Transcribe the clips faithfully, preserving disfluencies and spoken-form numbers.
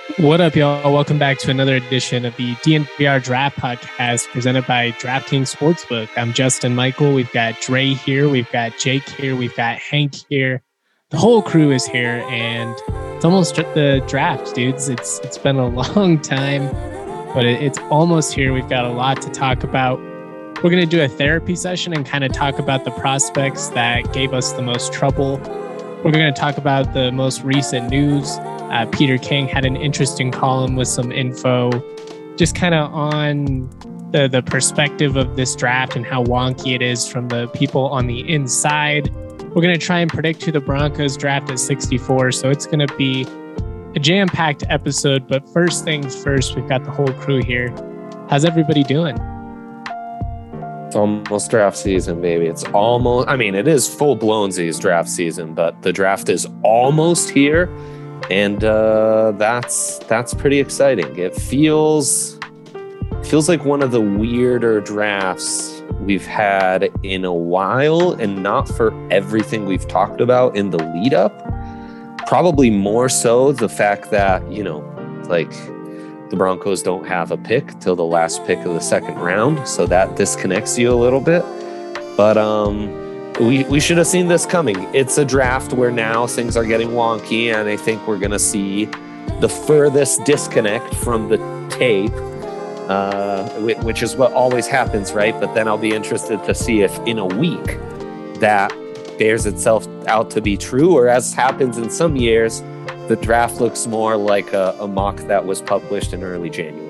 What up, y'all? Welcome back to another edition of the D N V R Draft Podcast presented by DraftKings Sportsbook. I'm Justin Michael. We've got Dre here. We've got Jake here. We've got Hank here. The whole crew is here, and it's almost the draft, dudes. It's It's been a long time, but it, it's almost here. We've got a lot to talk about. We're going to do a therapy session and kind of talk about the prospects that gave us the most trouble. We're going to talk about the most recent news. Uh, Peter King had an interesting column with some info just kind of on the, the perspective of this draft and how wonky it is from the people on the inside. We're going to try and predict who the Broncos draft at sixty-four. So it's going to be a jam-packed episode. But first things first, we've got the whole crew here. How's everybody doing? It's almost draft season, baby. It's almost, I mean, it is full-blown Z's draft season, but the draft is almost here. And uh, that's that's pretty exciting. It feels feels like one of the weirder drafts we've had in a while, and not for everything we've talked about in the lead up. Probably more so the fact that, you know, like the Broncos don't have a pick till the last pick of the second round, so that disconnects you a little bit. But um We we should have seen this coming. It's a draft where now things are getting wonky, and I think we're going to see the furthest disconnect from the tape, uh, which is what always happens, right? But then I'll be interested to see if in a week that bears itself out to be true, or as happens in some years, the draft looks more like a, a mock that was published in early January.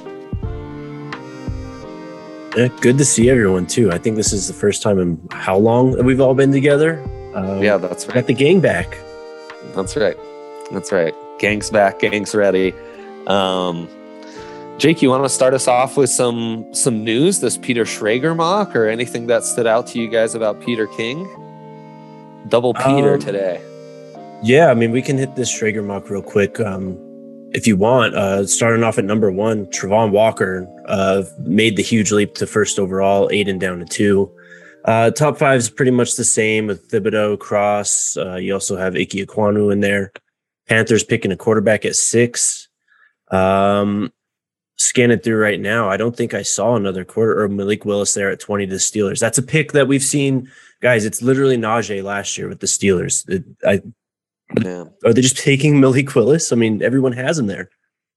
Yeah, good to see everyone too. I think this is the first time in how long that we've all been together. Um, yeah, that's right. Got the gang back. That's right. That's right. Gang's back. Gang's ready. Um, Jake, you want to start us off with some some news? This Peter Schrager mock, or anything that stood out to you guys about Peter King? Double Peter um, today. Yeah, I mean, we can hit this Schrager mock real quick. Um, If you want, uh, starting off at number one, Travon Walker uh, made the huge leap to first overall, Aiden down to two. Uh, top five is pretty much the same with Thibodeau, Cross. Uh, you also have Ike Ekwonu in there. Panthers picking a quarterback at six. Um, scanning through right now, I don't think I saw another quarter or Malik Willis there at twenty to the Steelers. That's a pick that we've seen. Guys, it's literally Najee last year with the Steelers. It, I Yeah. Are they just taking Malik Willis? I mean, everyone has him there.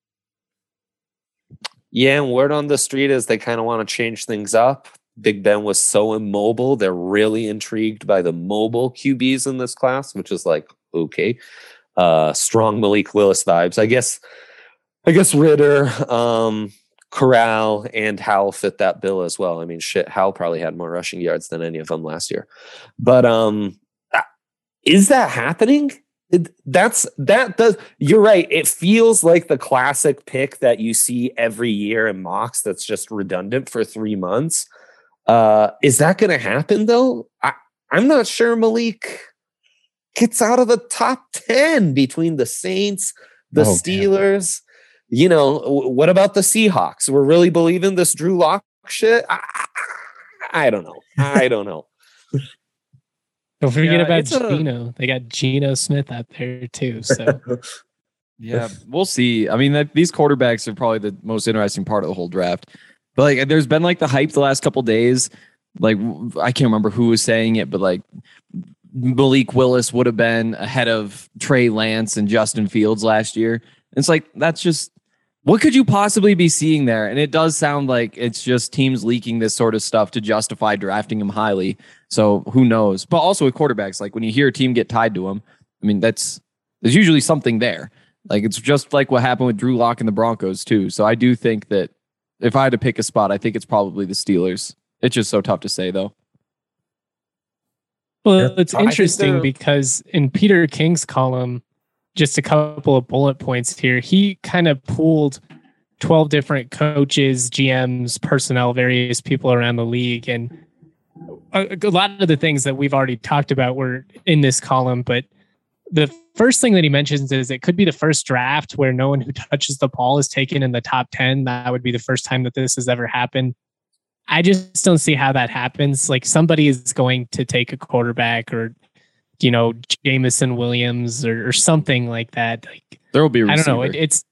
Yeah, and word on the street is they kind of want to change things up. Big Ben was so immobile. They're really intrigued by the mobile Q Bs in this class, which is like, okay. Uh, strong Malik Willis vibes. I guess I guess Ritter, um, Corral, and Howell fit that bill as well. I mean, shit, Howell probably had more rushing yards than any of them last year. But um, is that happening? It, that's that does you're right. It feels like the classic pick that you see every year in mocks that's just redundant for three months. Uh, is that going to happen though? I, I'm not sure Malik gets out of the top ten between the Saints, the oh, Steelers. Man. You know, what about the Seahawks? We're really believing this Drew Lock shit? I, I don't know. I don't know. Don't forget yeah, about Geno. A... They got Geno Smith out there too. So yeah, we'll see. I mean, that, these quarterbacks are probably the most interesting part of the whole draft. But like, there's been like the hype the last couple days. Like, I can't remember who was saying it, but like Malik Willis would have been ahead of Trey Lance and Justin Fields last year. And it's like, that's just, what could you possibly be seeing there? And it does sound like it's just teams leaking this sort of stuff to justify drafting him highly. So who knows? But also with quarterbacks, like when you hear a team get tied to him, I mean, that's there's usually something there. Like it's just like what happened with Drew Lock and the Broncos too. So I do think that if I had to pick a spot, I think it's probably the Steelers. It's just so tough to say though. Well, it's interesting because in Peter King's column, just a couple of bullet points here. He kind of pooled twelve different coaches, G Ms, personnel, various people around the league. And a, a lot of the things that we've already talked about were in this column. But the first thing that he mentions is it could be the first draft where no one who touches the ball is taken in the top ten. That would be the first time that this has ever happened. I just don't see how that happens. Like somebody is going to take a quarterback or, you know, Jameson Williams or, or something like that. Like there will be a I receiver. don't know. It, it's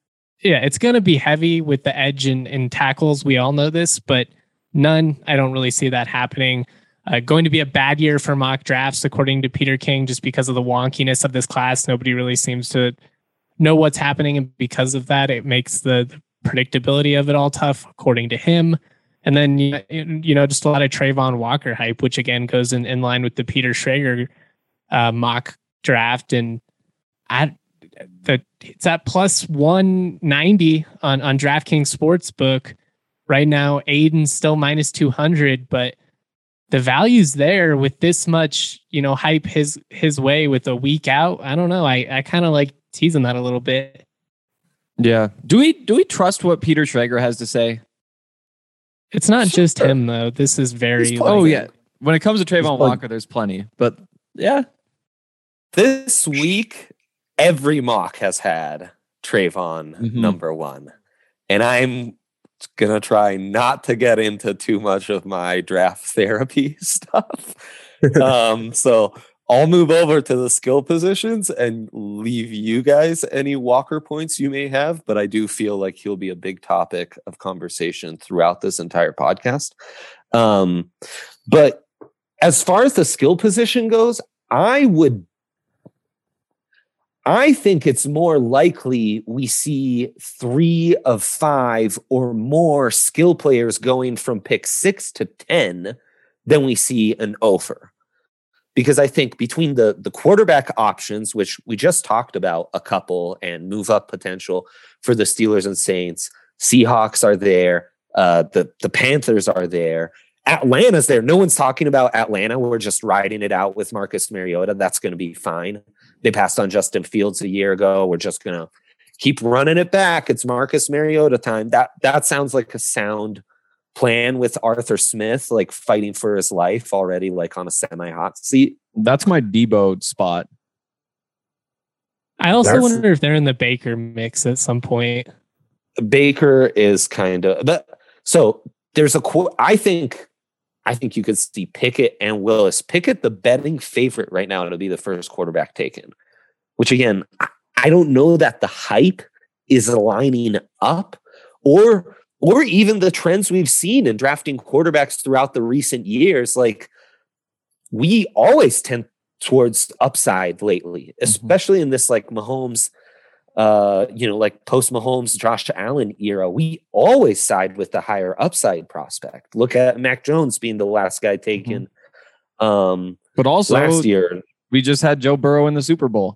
yeah, it's going to be heavy with the edge and, and tackles. We all know this, but none. I don't really see that happening. Uh, going to be a bad year for mock drafts, according to Peter King, just because of the wonkiness of this class. Nobody really seems to know what's happening, and because of that, it makes the, the predictability of it all tough, according to him. And then, you know, just a lot of Trayvon Walker hype, which again goes in, in line with the Peter Schrager uh, mock draft. And I, the, it's at plus one ninety on, on DraftKings Sportsbook right now. Aiden's still minus two hundred, but the value's there with this much, you know, hype his his way with a week out. I don't know. I, I kind of like teasing that a little bit. Yeah. Do we do we trust what Peter Schrager has to say? It's not just him though. This is very. Oh like, yeah. When it comes to Trayvon Walker, there's plenty. But yeah, this week every mock has had Trayvon Mhm. number one, and I'm gonna try not to get into too much of my draft therapy stuff. um, so I'll move over to the skill positions and leave you guys any Walker points you may have, but I do feel like he'll be a big topic of conversation throughout this entire podcast. Um, but as far as the skill position goes, I would I think it's more likely we see three of five or more skill players going from pick six to ten than we see an offer. Because I think between the, the quarterback options, which we just talked about a couple, and move up potential for the Steelers and Saints, Seahawks are there, uh, the, the Panthers are there, Atlanta's there. No one's talking about Atlanta. We're just riding it out with Marcus Mariota. That's going to be fine. They passed on Justin Fields a year ago. We're just going to keep running it back. It's Marcus Mariota time. That that sounds like a sound plan with Arthur Smith, like fighting for his life already, like on a semi-hot seat. that's my Debo spot. I also That's- wonder if they're in the Baker mix at some point. Baker is kind of the so there's a quote. I think I think you could see Pickett and Willis. Pickett, the betting favorite right now to be the first quarterback taken, which again, I don't know that the hype is lining up, or or even the trends we've seen in drafting quarterbacks throughout the recent years. Like, we always tend towards upside lately, especially in this like Mahomes, uh, you know, like post Mahomes, Josh Allen era. We always side with the higher upside prospect. Look at Mac Jones being the last guy taken um, But also, last year. we just had Joe Burrow in the Super Bowl.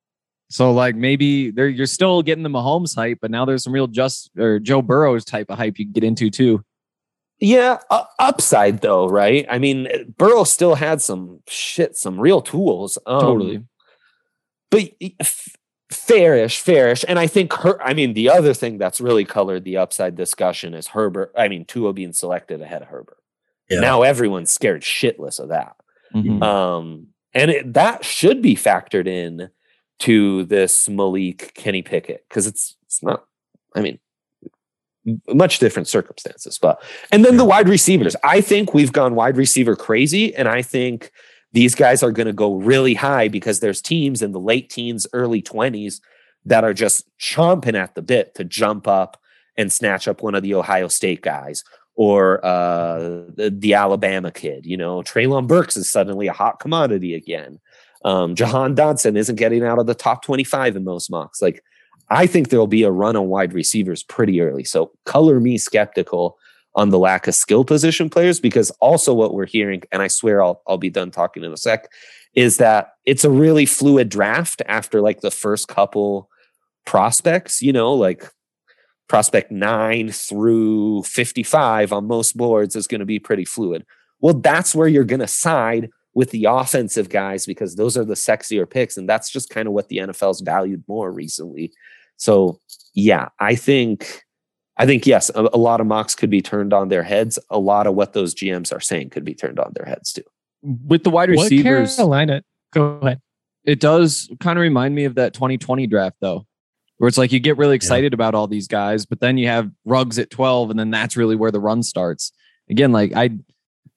So like maybe there you're still getting the Mahomes hype, but now there's some real just or Joe Burrow's type of hype you can get into too. Yeah, uh, upside though, right? I mean, Burrow still had some shit, some real tools. Um, Totally. But f- fairish, fairish. And I think her, I mean, the other thing that's really colored the upside discussion is Herbert. I mean, Tua being selected ahead of Herbert. Yeah. Now everyone's scared shitless of that. Mhm. Um, and it, that should be factored in to this Malik Kenny Pickett, because it's it's not, I mean, m- much different circumstances. But and then the wide receivers. I think we've gone wide receiver crazy, and I think these guys are going to go really high because there's teams in the late teens, early twenties that are just chomping at the bit to jump up and snatch up one of the Ohio State guys, or uh, the, the Alabama kid. You know, Treylon Burks is suddenly a hot commodity again. Um, Jahan Dodson isn't getting out of the top twenty-five in most mocks. Like, I think there'll be a run on wide receivers pretty early. So color me skeptical on the lack of skill position players, because also what we're hearing, and I swear I'll I'll be done talking in a sec, is that it's a really fluid draft after like the first couple prospects, you know, like prospect nine through fifty-five on most boards is going to be pretty fluid. Well, that's where you're going to side with the offensive guys, because those are the sexier picks. And that's just kind of what the N F L's valued more recently. So yeah, I think, I think, yes, a, a lot of mocks could be turned on their heads. A lot of what those G Ms are saying could be turned on their heads too. With the wide What receivers, Carolina? Go ahead. it does kind of remind me of that twenty twenty draft though, where it's like you get really excited about all these guys, but then you have Ruggs at twelve, and then that's really where the run starts. Again, like I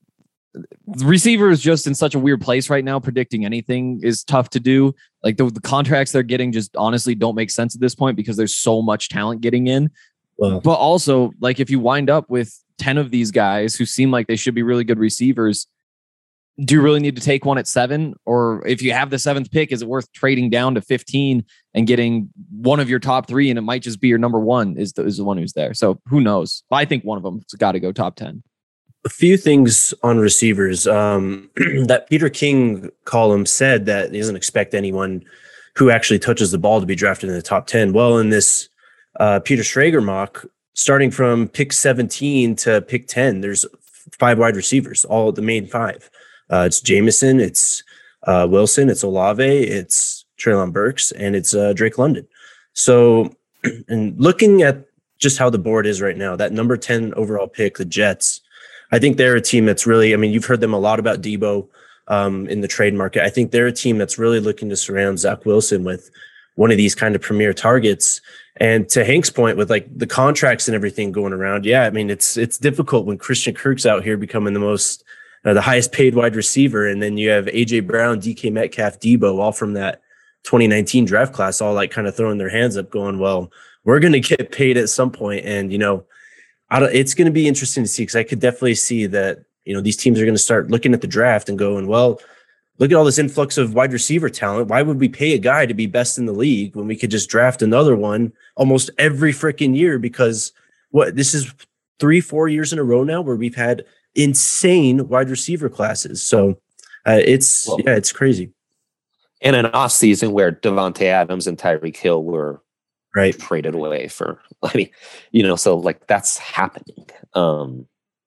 receiver is just in such a weird place right now. Predicting anything is tough to do. Like the, the contracts they're getting just honestly don't make sense at this point because there's so much talent getting in. Well, but also, like if you wind up with ten of these guys who seem like they should be really good receivers, do you really need to take one at seven? Or if you have the seventh pick, is it worth trading down to fifteen and getting one of your top three? And it might just be your number one is the, is the one who's there. So who knows? I think one of them has got to go top ten. A few things on receivers. Um, that Peter King column said that he doesn't expect anyone who actually touches the ball to be drafted in the top ten. Well, in this uh, Peter Schrager mock, starting from pick seventeen to pick ten, there's five wide receivers, all the main five. Uh, it's Jameson, it's uh, Wilson, it's Olave, it's Treylon Burks, and it's uh, Drake London. So, and looking at just how the board is right now, that number ten overall pick, the Jets, I think they're a team that's really, I mean, you've heard them a lot about Debo um, in the trade market. I think they're a team that's really looking to surround Zach Wilson with one of these kind of premier targets. And to Hank's point with like the contracts and everything going around, yeah, I mean, it's it's difficult when Christian Kirk's out here becoming the most Uh, the highest paid wide receiver. And then you have A J Brown, D K Metcalf, Debo, all from that twenty nineteen draft class, all like kind of throwing their hands up going, well, we're going to get paid at some point. And, you know, I don't, it's going to be interesting to see, because I could definitely see that, you know, these teams are going to start looking at the draft and going, well, look at all this influx of wide receiver talent. Why would we pay a guy to be best in the league when we could just draft another one almost every freaking year? Because what this is three, four years in a row now where we've had insane wide receiver classes. So uh, it's, well, yeah, it's crazy. In an off season where Devontae Adams and Tyreek Hill were right traded away for, I mean, you know, so like that's happening. Um,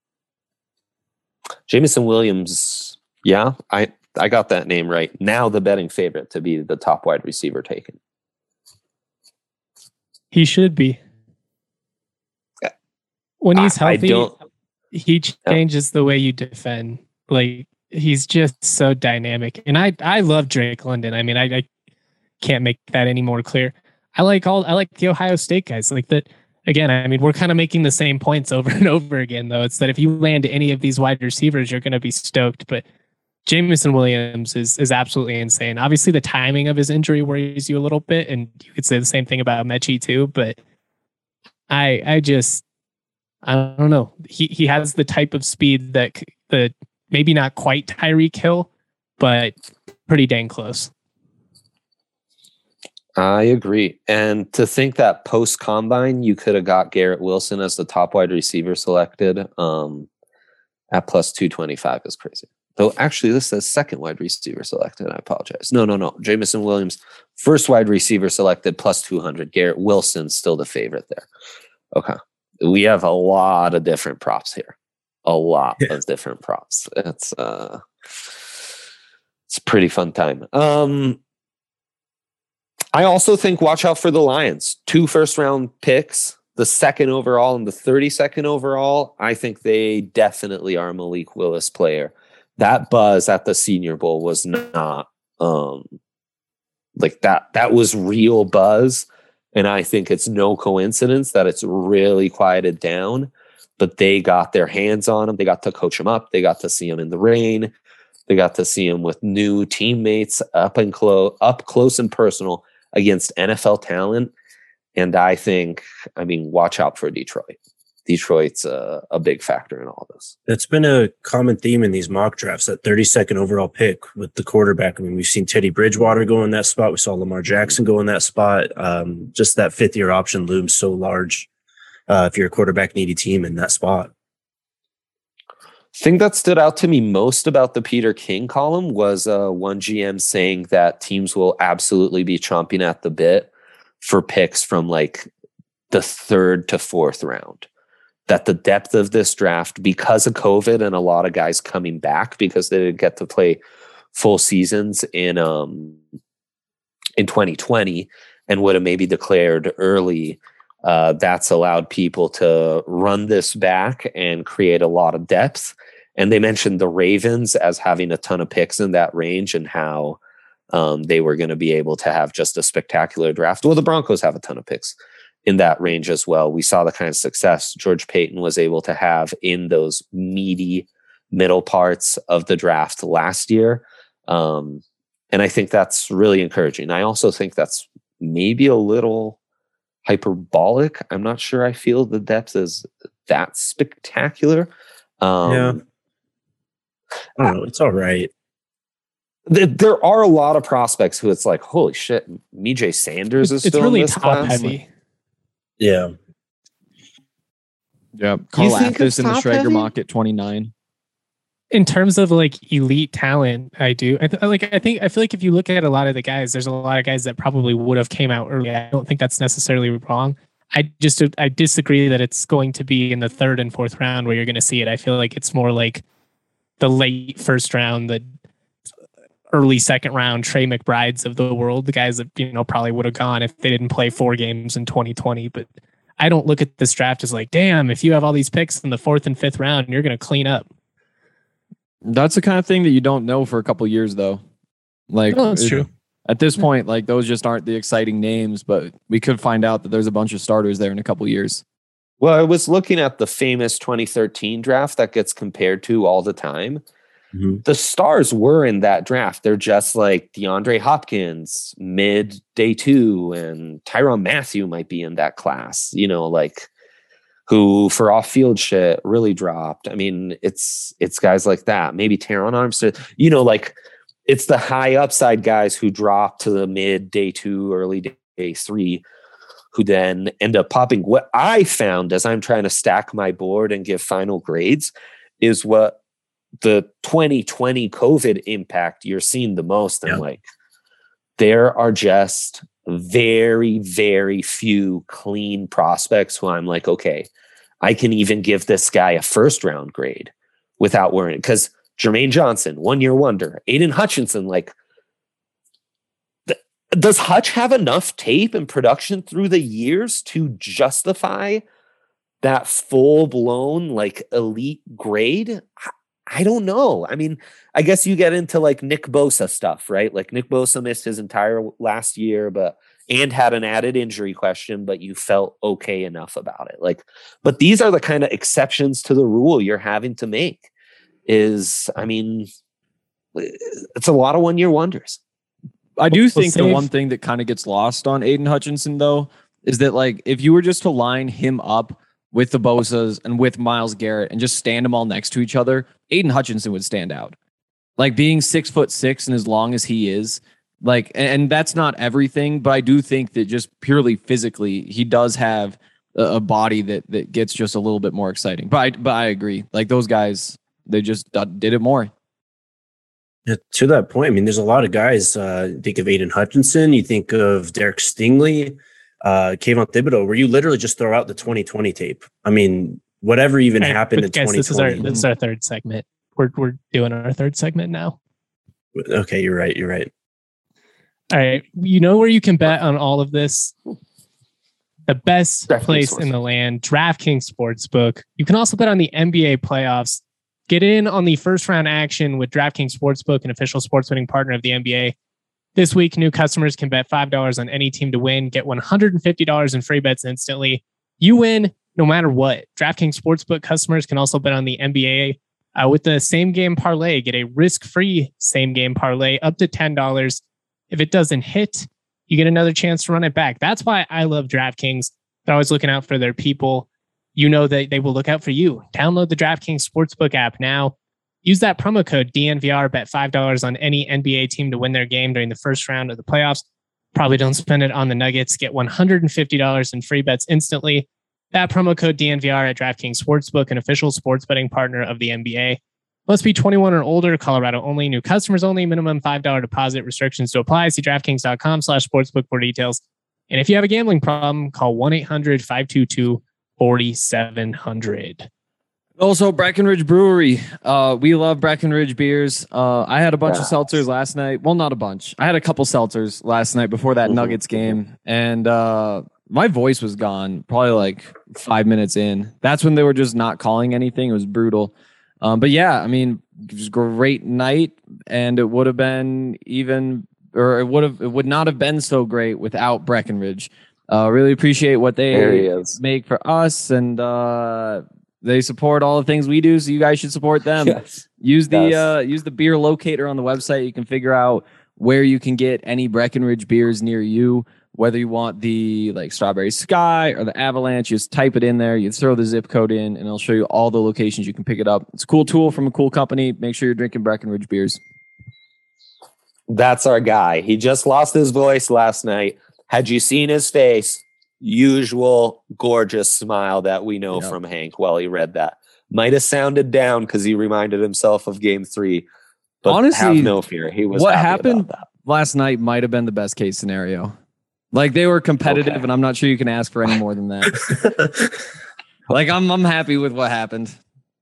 Jameson Williams. Yeah, I, I got that name right. Now the betting favorite to be the top wide receiver taken. He should be. When he's I, healthy, I don't, he changes the way you defend. Like he's just so dynamic. And I, I love Drake London. I mean, I, I can't make that any more clear. I like all, I like the Ohio State guys like that. Again, I mean, we're kind of making the same points over and over again, though. It's that if you land any of these wide receivers, you're going to be stoked. But Jameson Williams is is absolutely insane. Obviously, the timing of his injury worries you a little bit, and you could say the same thing about Mechie too. But I I just I don't know. He he has the type of speed that the maybe not quite Tyreek Hill, but pretty dang close. I agree. And to think that post combine, you could have got Garrett Wilson as the top wide receiver selected um, at plus two twenty-five is crazy. Though actually, this says second wide receiver selected. I apologize. No, no, no. Jameson Williams, first wide receiver selected plus two hundred. Garrett Wilson, still the favorite there. Okay. We have a lot of different props here. A lot yeah. of different props. It's uh, it's a pretty fun time. Um, I also think watch out for the Lions. Two first round picks, the second overall and the thirty-second overall. I think they definitely are a Malik Willis player. That buzz at the Senior Bowl was not um, like that. That was real buzz. And I think it's no coincidence that it's really quieted down. But they got their hands on him. They got to coach him up. They got to see him in the rain. They got to see him with new teammates up and close, up close and personal against N F L talent. And I think, I mean, watch out for Detroit. Detroit's a, a big factor in all this. That's been a common theme in these mock drafts, that thirty-second overall pick with the quarterback. I mean, we've seen Teddy Bridgewater go in that spot. We saw Lamar Jackson go in that spot. Um, just that fifth year option looms so large uh, if you're a quarterback needy team in that spot. Thing that stood out to me most about the Peter King column was uh, one G M saying that teams will absolutely be chomping at the bit for picks from like the third to fourth round. That the depth of this draft, because of COVID and a lot of guys coming back because they didn't get to play full seasons in um in twenty twenty and would have maybe declared early, uh, that's allowed people to run this back and create a lot of depth. And they mentioned the Ravens as having a ton of picks in that range and how um, they were going to be able to have just a spectacular draft. Well, the Broncos have a ton of picks in that range as well. We saw the kind of success George Payton was able to have in those meaty middle parts of the draft last year. Um, and I think that's really encouraging. I also think that's maybe a little hyperbolic. I'm not sure I feel the depth is that spectacular. Um, yeah. I don't know. It's all right. th- there are a lot of prospects who it's like, holy shit, Mijay Sanders is It's still really in this top class. heavy. Yeah. Yeah. Carl think it's Athos in the top Schrager heavy? mock at twenty-nine. In terms of like elite talent, I do. I th- like. I think. I feel like if you look at a lot of the guys, there's a lot of guys that probably would have came out early. I don't think that's necessarily wrong. I just I disagree that it's going to be in the third and fourth round where you're going to see it. I feel like it's more like the late first round, the early second round Trey McBrides of the world, the guys that you know probably would have gone if they didn't play four games in twenty twenty. But I don't look at this draft as like, damn, if you have all these picks in the fourth and fifth round, you're going to clean up. That's the kind of thing that you don't know for a couple years, though. Like, No, that's it- true. At this point, like those just aren't the exciting names, but we could find out that there's a bunch of starters there in a couple years. Well, I was looking at the famous twenty thirteen draft that gets compared to all the time. Mhm. The stars were in that draft. They're just like DeAndre Hopkins, mid day two, and Tyrann Mathieu might be in that class, you know, like who for off field shit really dropped. I mean, it's it's guys like that. Maybe Teron Armstead, you know, like it's the high upside guys who drop to the mid day two, early day, day three, who then end up popping. What I found as I'm trying to stack my board and give final grades is what the twenty twenty COVID impact you're seeing the most. And Yeah. like, there are just very, very few clean prospects who I'm like, okay, I can even give this guy a first round grade without worrying. Because Jermaine Johnson, one year wonder, Aiden Hutchinson, like, th- does Hutch have enough tape and production through the years to justify that full blown like elite grade? I- I don't know. I mean, I guess you get into like Nick Bosa stuff, right? Like Nick Bosa missed his entire last year, but and had an added injury question, but you felt okay enough about it. Like, but these are the kind of exceptions to the rule you're having to make. Is I mean, it's a lot of one year wonders. I do We'll think the save- one thing that kind of gets lost on Aiden Hutchinson, though, is that like if you were just to line him up with the Bosas and with Myles Garrett and just stand them all next to each other, Aiden Hutchinson would stand out. Like being six foot six and as long as he is, like, and that's not everything, but I do think that just purely physically, he does have a, a body that that gets just a little bit more exciting. But I, but I agree, like those guys, they just d- did it more. Yeah, to that point, I mean, there's a lot of guys. Uh, you think of Aiden Hutchinson, you think of Derek Stingley, uh, Kayvon Thibodeau, where you literally just throw out the twenty twenty tape. I mean, whatever even All right, happened but in guys, twenty this is our twenty. this is our third segment. We're we're doing our third segment now. Okay, you're right. You're right. All right, you know where you can bet on all of this. The best DraftKings place Sportsbook. in the land, DraftKings Sportsbook. You can also bet on the N B A playoffs. Get in on the first round action with DraftKings Sportsbook, an official sports betting partner of the N B A. This week, new customers can bet five dollars on any team to win, get one hundred fifty dollars in free bets instantly. You win no matter what. DraftKings Sportsbook customers can also bet on the N B A uh, with the same game parlay. Get a risk-free same game parlay up to ten dollars. If it doesn't hit, you get another chance to run it back. That's why I love DraftKings. They're always looking out for their people. You know that they will look out for you. Download the DraftKings Sportsbook app now. Use that promo code D N V R. Bet five dollars on any N B A team to win their game during the first round of the playoffs. Probably don't spend it on the Nuggets. Get one hundred fifty dollars in free bets instantly. That promo code D N V R at DraftKings Sportsbook, an official sports betting partner of the N B A. Must be twenty-one or older. Colorado only. New customers only. Minimum five dollars deposit. Restrictions to apply. See DraftKings.com slash sportsbook for details. And if you have a gambling problem, call one eight hundred five two two four seven zero zero. Also, Breckenridge Brewery. Uh, we love Breckenridge beers. Uh, I had a bunch Yes. of seltzers last night. Well, not a bunch. I had a couple seltzers last night before that Mhm, Nuggets game, and uh, my voice was gone probably like five minutes in. That's when they were just not calling anything. It was brutal. Um, but yeah, I mean, it was a great night, and it would have been even, or it would have, it would not have been so great without Breckenridge. Uh, really appreciate what There he they is. make for us, and uh, They support all the things we do, so you guys should support them. Yes. Use the Yes. uh, use the beer locator on the website. You can figure out where you can get any Breckenridge beers near you. Whether you want the like Strawberry Sky or the Avalanche, you just type it in there. You throw the zip code in, and it'll show you all the locations you can pick it up. It's a cool tool from a cool company. Make sure you're drinking Breckenridge beers. That's our guy. He just lost his voice last night. Had you seen his face? Usual gorgeous smile that we know Yep. from Hank while he read that. Might have sounded down because he reminded himself of game three. But Honestly, have no fear. He was what happy happened about that. last night might have been the best case scenario. Like they were competitive, Okay. and I'm not sure you can ask for any more than that. Like I'm, I'm happy with what happened.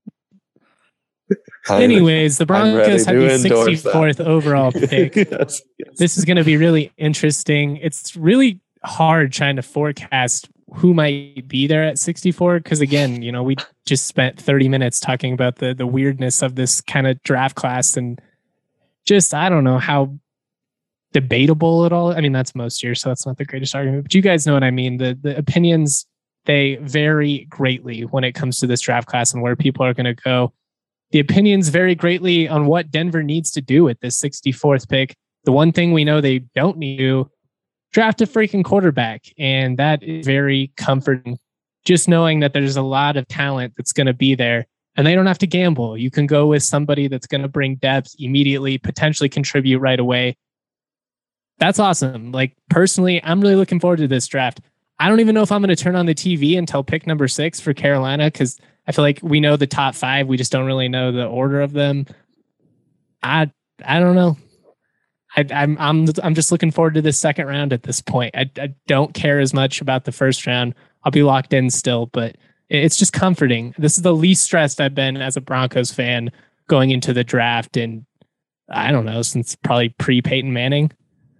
I'm- Anyways, the I'm ready Broncos have to the endorse that. sixty-fourth overall pick. Yes, yes. This is going to be really interesting. It's really hard trying to forecast who might be there at sixty-four because, again, you know, we just spent thirty minutes talking about the the weirdness of this kind of draft class and just I don't know how debatable it all. I mean, that's most years, so that's not the greatest argument. But you guys know what I mean. The the opinions, they vary greatly when it comes to this draft class and where people are going to go. The opinions vary greatly on what Denver needs to do with this sixty-fourth pick. The one thing we know they don't need to do, draft a freaking quarterback. And that is very comforting. Just knowing that there's a lot of talent that's going to be there and they don't have to gamble. You can go with somebody that's going to bring depth immediately, potentially contribute right away. That's awesome. Like personally, I'm really looking forward to this draft. I don't even know if I'm going to turn on the T V until pick number six for Carolina because I feel like we know the top five. We just don't really know the order of them. I I don't know. I, I'm I'm I'm just looking forward to this second round at this point. I, I don't care as much about the first round. I'll be locked in still, but it's just comforting. This is the least stressed I've been as a Broncos fan going into the draft, and I don't know since probably pre Peyton Manning.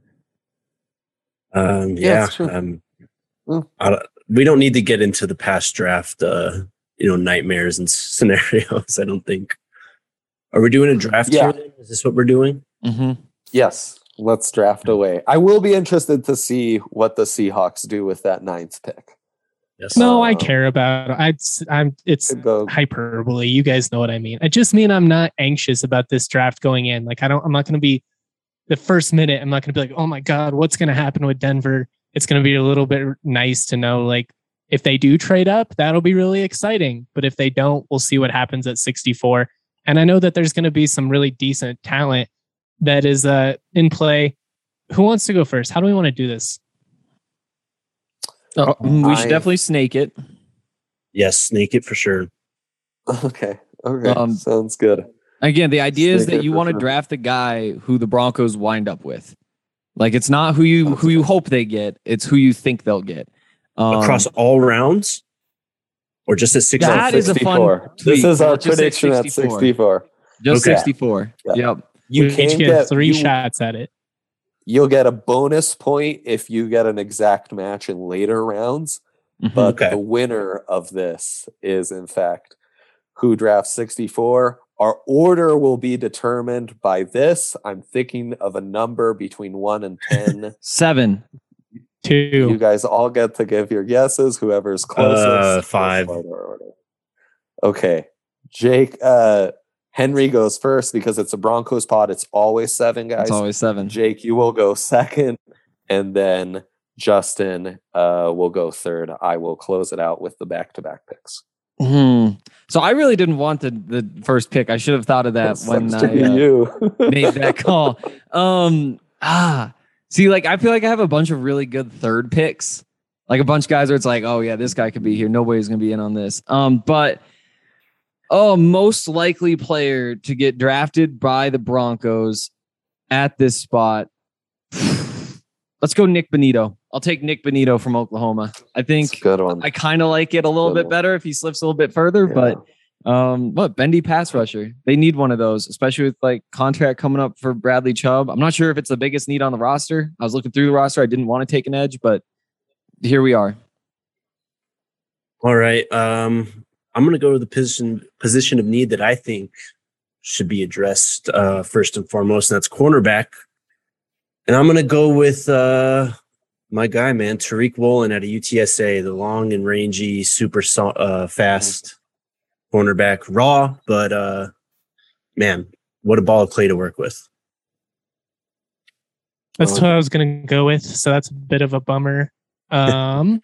Um, Yeah, yeah. it's true. Um, Mm. I don't- we don't need to get into the past draft, uh, you know, nightmares and scenarios. I don't think. Are we doing a draft Yeah. here? Then? Is this what we're doing? Mm-hmm. Yes, let's draft away. I will be interested to see what the Seahawks do with that ninth pick. Yes. No, I Um, care about it. I, I'm. It's Could go- hyperbole. You guys know what I mean. I just mean I'm not anxious about this draft going in. Like I don't. I'm not going to be the first minute. I'm not going to be like, oh my god, what's going to happen with Denver? It's going to be a little bit nice to know, like if they do trade up, that'll be really exciting. But if they don't, we'll see what happens at sixty-four. And I know that there's going to be some really decent talent that is uh, in play. Who wants to go first? How do we want to do this? Oh, we should I- definitely snake it. Yes, snake it for sure. Okay. Okay. Um, Sounds good. Again, the idea is Snake that it you for want to sure. draft a guy who the Broncos wind up with. Like it's not who you who you hope they get; it's who you think they'll get. Um, Across all rounds, or just at six? That is a fun sixty-four. This tweet. is our Let's just say prediction at sixty-four. sixty-four. just Okay. sixty-four. Yeah. Yep. You we each can get, get three you- shots at it. You'll get a bonus point if you get an exact match in later rounds. Mhm. But Okay. the winner of this is, in fact, who drafts sixty-four. Our order will be determined by this. I'm thinking of a number between one and ten. Seven. Two. You guys all get to give your guesses. Whoever's closest. Uh, will five. start our order. Okay. Jake, uh, Henry goes first because it's a Broncos pod. It's always seven guys. It's always seven. Jake, you will go second. And then Justin uh, will go third. I will close it out with the back to back picks. Hmm. So I really didn't want the the first pick. I should have thought of that That when sucks I to be uh, you. made that call. Um. Ah. See, like I feel like I have a bunch of really good third picks. Like a bunch of guys where it's like, oh yeah, this guy could be here. Nobody's gonna be in on this. Um. But oh, most likely player to get drafted by the Broncos at this spot. Let's go Nick Bonito. I'll take Nick Bonito from Oklahoma. I think It's a good one. I kind of like it a little Good bit one. better if he slips a little bit further, Yeah. but um, what bendy pass rusher? They need one of those, especially with like contract coming up for Bradley Chubb. I'm not sure if it's the biggest need on the roster. I was looking through the roster. I didn't want to take an edge, but here we are. All right. Um, I'm going to go to the position position of need that I think should be addressed uh, first and foremost, and that's cornerback. And I'm going to go with uh, my guy, man, Tariq Woolen out of U T S A, the long and rangy, super so- uh, fast cornerback, raw, but uh, man, what a ball of clay to work with. That's what I was going to go with. So that's a bit of a bummer. Um,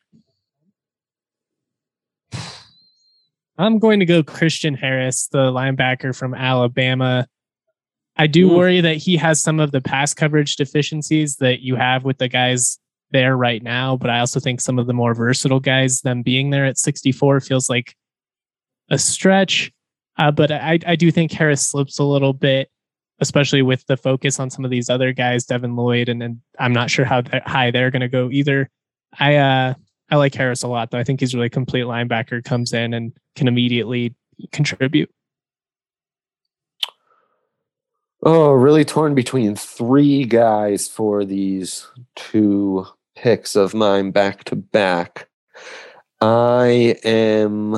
I'm going to go Christian Harris, the linebacker from Alabama. I do Ooh. worry that he has some of the pass coverage deficiencies that you have with the guys there right now, but I also think some of the more versatile guys, them being there at sixty-four, feels like a stretch. Uh, but I, I do think Harris slips a little bit, especially with the focus on some of these other guys, Devin Lloyd, and, and I'm not sure how th- high they're going to go either. I uh, I like Harris a lot, though. I think he's a really complete linebacker, comes in and can immediately contribute. Oh, really torn between three guys for these two picks of mine back to back. I am.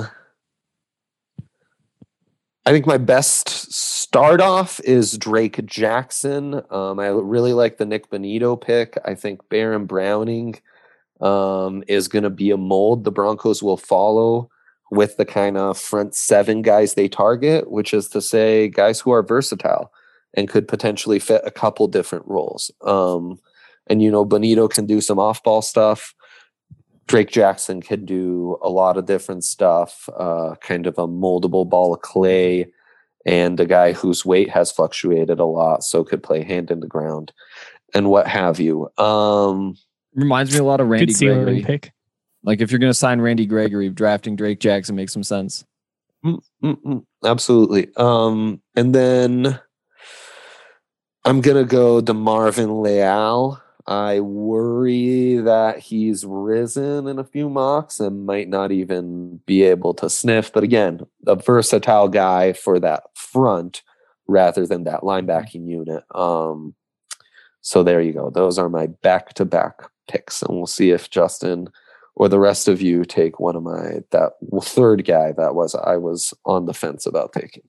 I think my best start off is Drake Jackson. Um, I really like the Nick Bonito pick. I think Baron Browning um, is going to be a mold the Broncos will follow with the kind of front seven guys they target, which is to say guys who are versatile and could potentially fit a couple different roles. Um, and, you know, Bonito can do some off-ball stuff. Drake Jackson can do a lot of different stuff, uh, kind of a moldable ball of clay, and a guy whose weight has fluctuated a lot, so could play hand in the ground and what have you. Um, Reminds me a lot of Randy Good ceiling Gregory. pick. Like if you're going to sign Randy Gregory, drafting Drake Jackson makes some sense. mm, mm, mm, absolutely. Um, and then I'm going to go to Marvin Leal. I worry that he's risen in a few mocks and might not even be able to sniff. But again, a versatile guy for that front rather than that linebacking unit. Um, so there you go. Those are my back-to-back picks. And we'll see if Justin or the rest of you take one of my, that third guy that was I was on the fence about taking.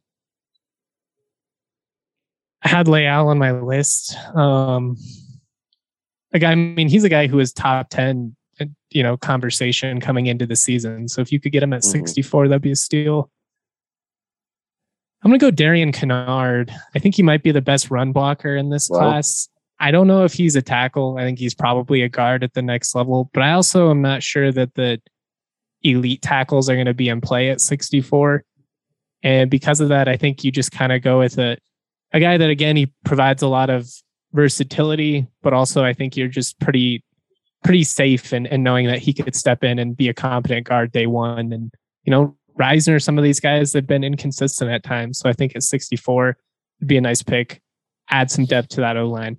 I had Leal on my list. Um, a guy, I mean, he's a guy who is top ten, you know, conversation coming into the season. So if you could get him at Mhm. sixty-four, that'd be a steal. I'm going to go Darian Kennard. I think he might be the best run blocker in this Wow. class. I don't know if he's a tackle. I think he's probably a guard at the next level, but I also am not sure that the elite tackles are going to be in play at sixty-four. And because of that, I think you just kind of go with a, a guy that, again, he provides a lot of versatility, but also I think you're just pretty pretty safe in, in knowing that he could step in and be a competent guard day one. And, you know, Reisner, some of these guys have been inconsistent at times. So I think at sixty-four would be a nice pick. Add some depth to that O-line.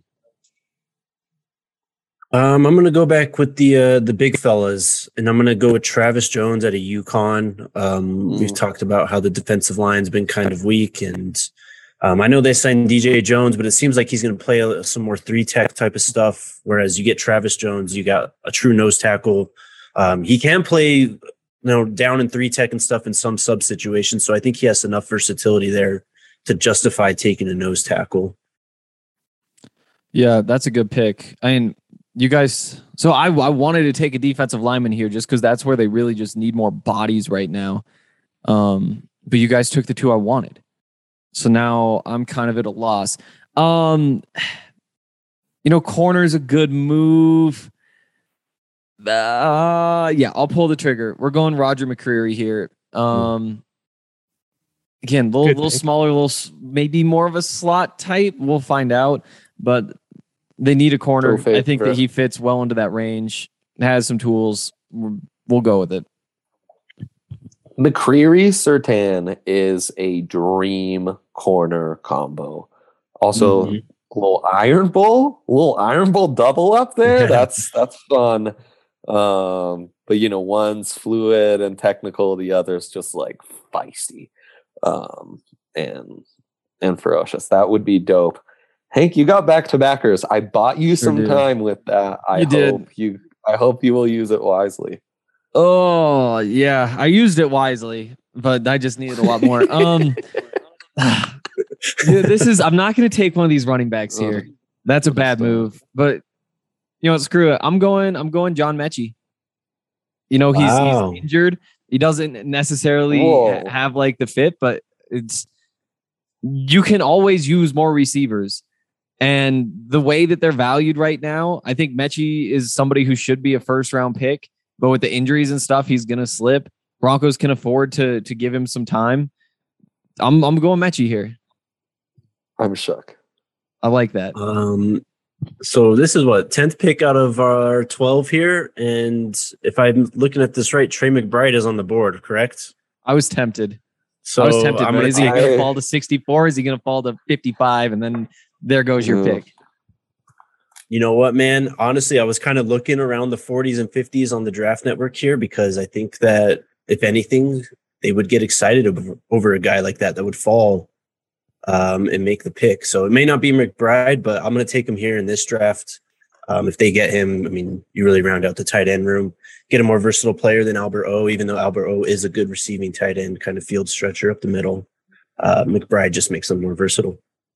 Um, I'm going to go back with the uh, the big fellas, and I'm going to go with Travis Jones at a UConn. Um, Mm. We've talked about how the defensive line's been kind of weak, and um, I know they signed D J Jones, but it seems like he's going to play a, some more three tech type of stuff. Whereas you get Travis Jones, you got a true nose tackle. Um, he can play, you know, down in three tech and stuff in some sub situations. So I think he has enough versatility there to justify taking a nose tackle. Yeah, that's a good pick. I mean, you guys, so I, I wanted to take a defensive lineman here just because that's where they really just need more bodies right now. Um, but you guys took the two I wanted. So now I'm kind of at a loss. Um, you know, corner's a good move. Uh, yeah, I'll pull the trigger. We're going Roger McCreary here. Um, again, little, Good little pick. smaller, little s- maybe more of a slot type. We'll find out. But they need a corner. Go I think that favorite. he fits well into that range. Has some tools. We're- We'll go with it. McCreary Sertan is a dream corner combo. Also, Mhm. a little Iron Bull, a little Iron Bull double up there. Yeah. That's that's fun. Um, but you know, one's fluid and technical, the other's just like feisty, um, and and ferocious. That would be dope. Hank, you got back to backers. I bought you Sure some did. time with that. I You did. hope you. I hope you will use it wisely. Oh yeah, I used it wisely, but I just needed a lot more. Um, dude, this is. I'm not going to take one of these running backs here. That's a bad move. But you know, what, screw it. I'm going. I'm going John Mechie. You know, he's, Wow. he's injured. He doesn't necessarily Whoa. ha- have like the fit, but it's you can always use more receivers. And the way that they're valued right now, I think Mechie is somebody who should be a first round pick, but with the injuries and stuff, he's gonna slip. Broncos can afford to to give him some time. I'm I'm going Mechie here. I'm shook. I like that. Um, so this is what tenth pick out of our twelve here, and if I'm looking at this right, Trey McBride is on the board, correct? I was tempted. So I was tempted, I'm but gonna is he take- going to fall to sixty-four? Is he going to fall to fifty-five? And then there goes your Yeah. pick. You know what, man? Honestly, I was kind of looking around the forties and fifties on the Draft Network here because I think that if anything, they would get excited over, over a guy like that that would fall um, and make the pick. So it may not be McBride, but I'm going to take him here in this draft. Um, if they get him, I mean, you really round out the tight end room, get a more versatile player than Albert O, even though Albert O is a good receiving tight end, kind of field stretcher up the middle. Uh, McBride just makes them more versatile.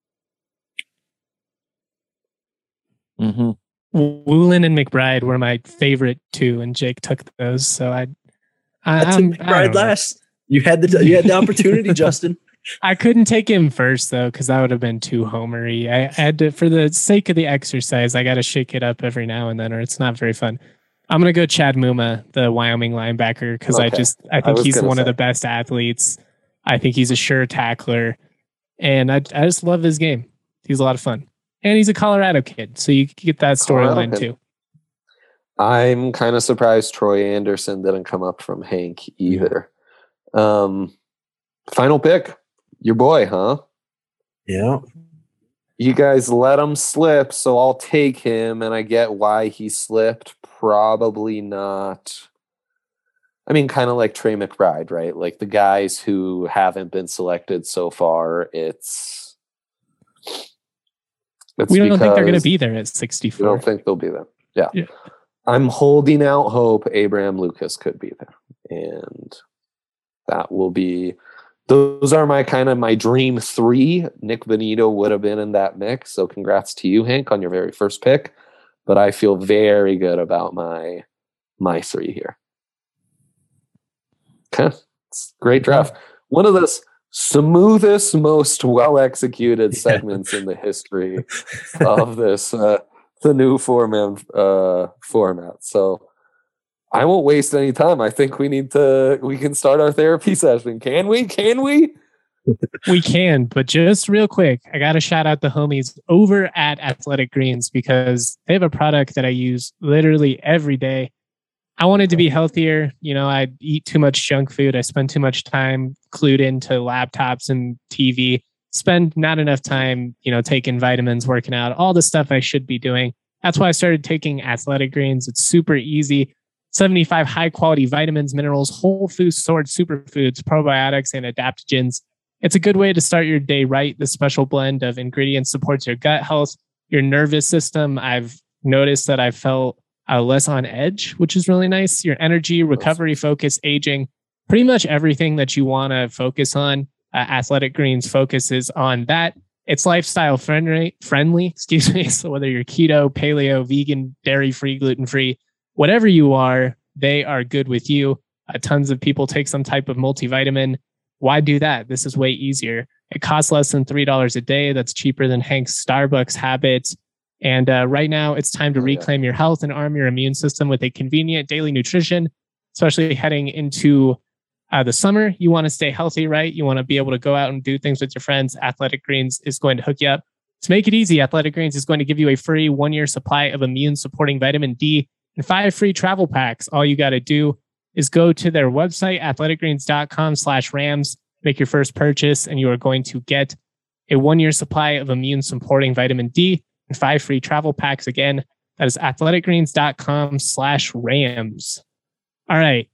Mm-hmm. Woolen and McBride were my favorite two, and Jake took those. So I, I, I took I'm- I McBride don't know. last. You had the you had the opportunity, Justin. I couldn't take him first though, because that would have been too homery. I, I had to, for the sake of the exercise, I got to shake it up every now and then, or it's not very fun. I'm gonna go Chad Muma, the Wyoming linebacker, because I Okay. just I I think was he's gonna one of say. the best athletes. I think he's a sure tackler, and I I just love his game. He's a lot of fun, and he's a Colorado kid, so you get that Colorado storyline kid. too. I'm kind of surprised Troy Anderson didn't come up from Hank either. Um, final pick, your boy, huh? Yeah. You guys let him slip, so I'll take him, and I get why he slipped. Probably not. I mean, kind of like Trey McBride, right? Like the guys who haven't been selected so far. It's, it's We don't think they're going to because- be there at You sixty-four. don't think they'll be there? Yeah. Yeah. I'm holding out hope Abraham Lucas could be there. And that will be, those are my kind of my dream three. Nick Benito would have been in that mix. So congrats to you, Hank, on your very first pick. But I feel very good about my my three here. Okay. It's a great draft. One of the s- smoothest, most well executed Yeah. segments in the history of this uh, the new four man uh, format. So I won't waste any time. I think we need to. We can start our therapy session. Can we? Can we? We can, but just real quick, I got to shout out the homies over at Athletic Greens because they have a product that I use literally every day. I wanted to be healthier. You know, I eat too much junk food. I spend too much time glued into laptops and T V, spend not enough time, you know, taking vitamins, working out, all the stuff I should be doing. That's why I started taking Athletic Greens. It's super easy. seventy-five high quality vitamins, minerals, whole food stored superfoods, probiotics, and adaptogens. It's a good way to start your day right. The special blend of ingredients supports your gut health, your nervous system. I've noticed that I felt uh, less on edge, which is really nice. Your energy, recovery, focus, aging, pretty much everything that you want to focus on. Uh, Athletic Greens focuses on that. It's lifestyle friendly, friendly, excuse me. So whether you're keto, paleo, vegan, dairy-free, gluten-free, whatever you are, they are good with you. Uh, tons of people take some type of multivitamin. Why do that? This is way easier. It costs less than three dollars a day. That's cheaper than Hank's Starbucks habit. And uh, right now, it's time to Oh, yeah. reclaim your health and arm your immune system with a convenient daily nutrition, especially heading into uh, the summer. You want to stay healthy, right? You want to be able to go out and do things with your friends. Athletic Greens is going to hook you up. To make it easy, Athletic Greens is going to give you a free one-year supply of immune-supporting vitamin D and five free travel packs. All you got to do is go to their website, athleticgreens.com slash Rams, make your first purchase, and you are going to get a one-year supply of immune-supporting vitamin D and five free travel packs. Again, that is athleticgreens.com slash Rams. All right,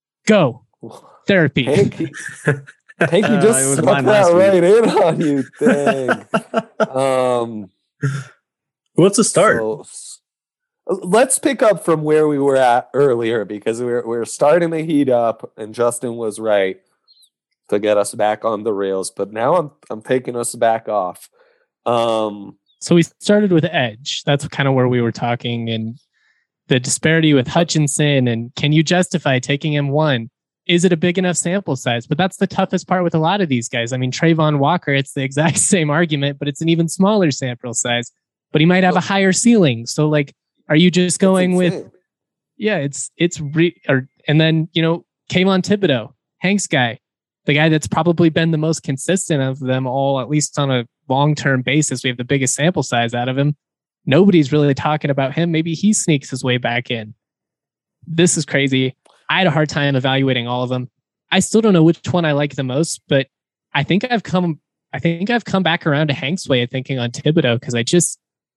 go. Therapy. Hank, he- Hank, you Uh, just it was stuck mine that last week. right in on you. Dang. um, Who wants to start? So, s- let's pick up from where we were at earlier because we're we're starting to heat up, and Justin was right to get us back on the rails. But now I'm I'm taking us back off. Um, So we started with edge. That's kind of where we were talking, and the disparity with Hutchinson. And can you justify taking him one? is it a big enough sample size? But that's the toughest part with a lot of these guys. I mean, Trayvon Walker, it's the exact same argument, but it's an even smaller sample size. But he might have a higher ceiling. So, like, are you just going with? Yeah, it's it's re, or and then you know, Kayvon Thibodeau, Hank's guy, the guy that's probably been the most consistent of them all, at least on a long-term basis. We have the biggest sample size out of him. Nobody's really talking about him. Maybe he sneaks his way back in. This is crazy. I had a hard time evaluating all of them. I still don't know which one I like the most, but I think I've come, I think I've come back around to Hank's way of thinking on Thibodeau because I just,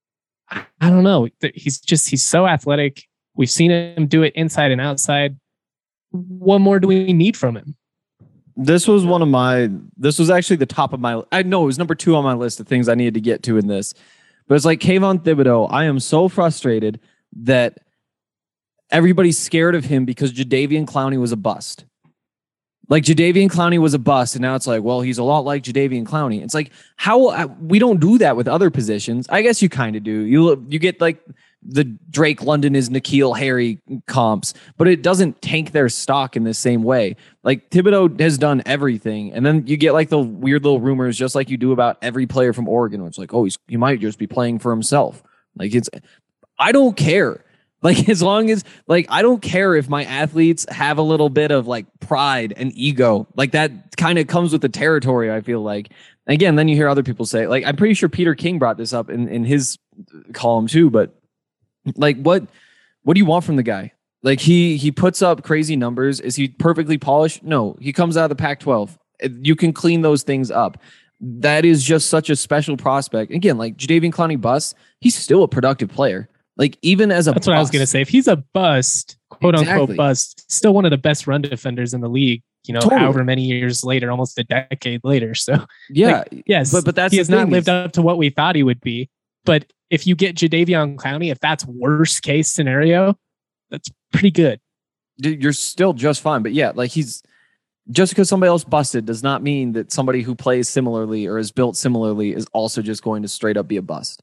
I don't know. He's just, he's so athletic. We've seen him do it inside and outside. What more do we need from him? This was one of my, this was actually the top of my, I know it was number two on my list of things I needed to get to in this. But it's like Kayvon Thibodeau. I am so frustrated that everybody's scared of him because Jadeveon Clowney was a bust. Like Jadeveon Clowney was a bust, and now it's like, well, he's a lot like Jadeveon Clowney. It's like, how we don't do that with other positions. I guess you kind of do. You you get like the Drake London is N'Keal Harry comps, but it doesn't tank their stock in the same way. Like Thibodeau has done everything, and then you get like the weird little rumors, just like you do about every player from Oregon, where it's like, oh, he's he might just be playing for himself. Like it's, I don't care. Like, as long as, like, I don't care if my athletes have a little bit of, like, pride and ego. Like, that kind of comes with the territory, I feel like. Again, then you hear other people say, like, I'm pretty sure Peter King brought this up in, in his column, too. But, like, what what do you want from the guy? Like, he he puts up crazy numbers. Is he perfectly polished? No. He comes out of the Pac twelve. You can clean those things up. That is just such a special prospect. Again, like, Jadeveon Clowney bust, he's still a productive player. Like, even as a That's bust, what I was going to say. If he's a bust, quote Exactly. unquote bust, still one of the best run defenders in the league, you know, Totally. however many years later, almost a decade later. So, yeah, like, yes, but but that's he the has not thing lived is- up to what we thought he would be. But if you get Jadeveon Clowney, if that's worst case scenario, that's pretty good. dude, you're still just fine. But yeah, like he's just because somebody else busted does not mean that somebody who plays similarly or is built similarly is also just going to straight up be a bust.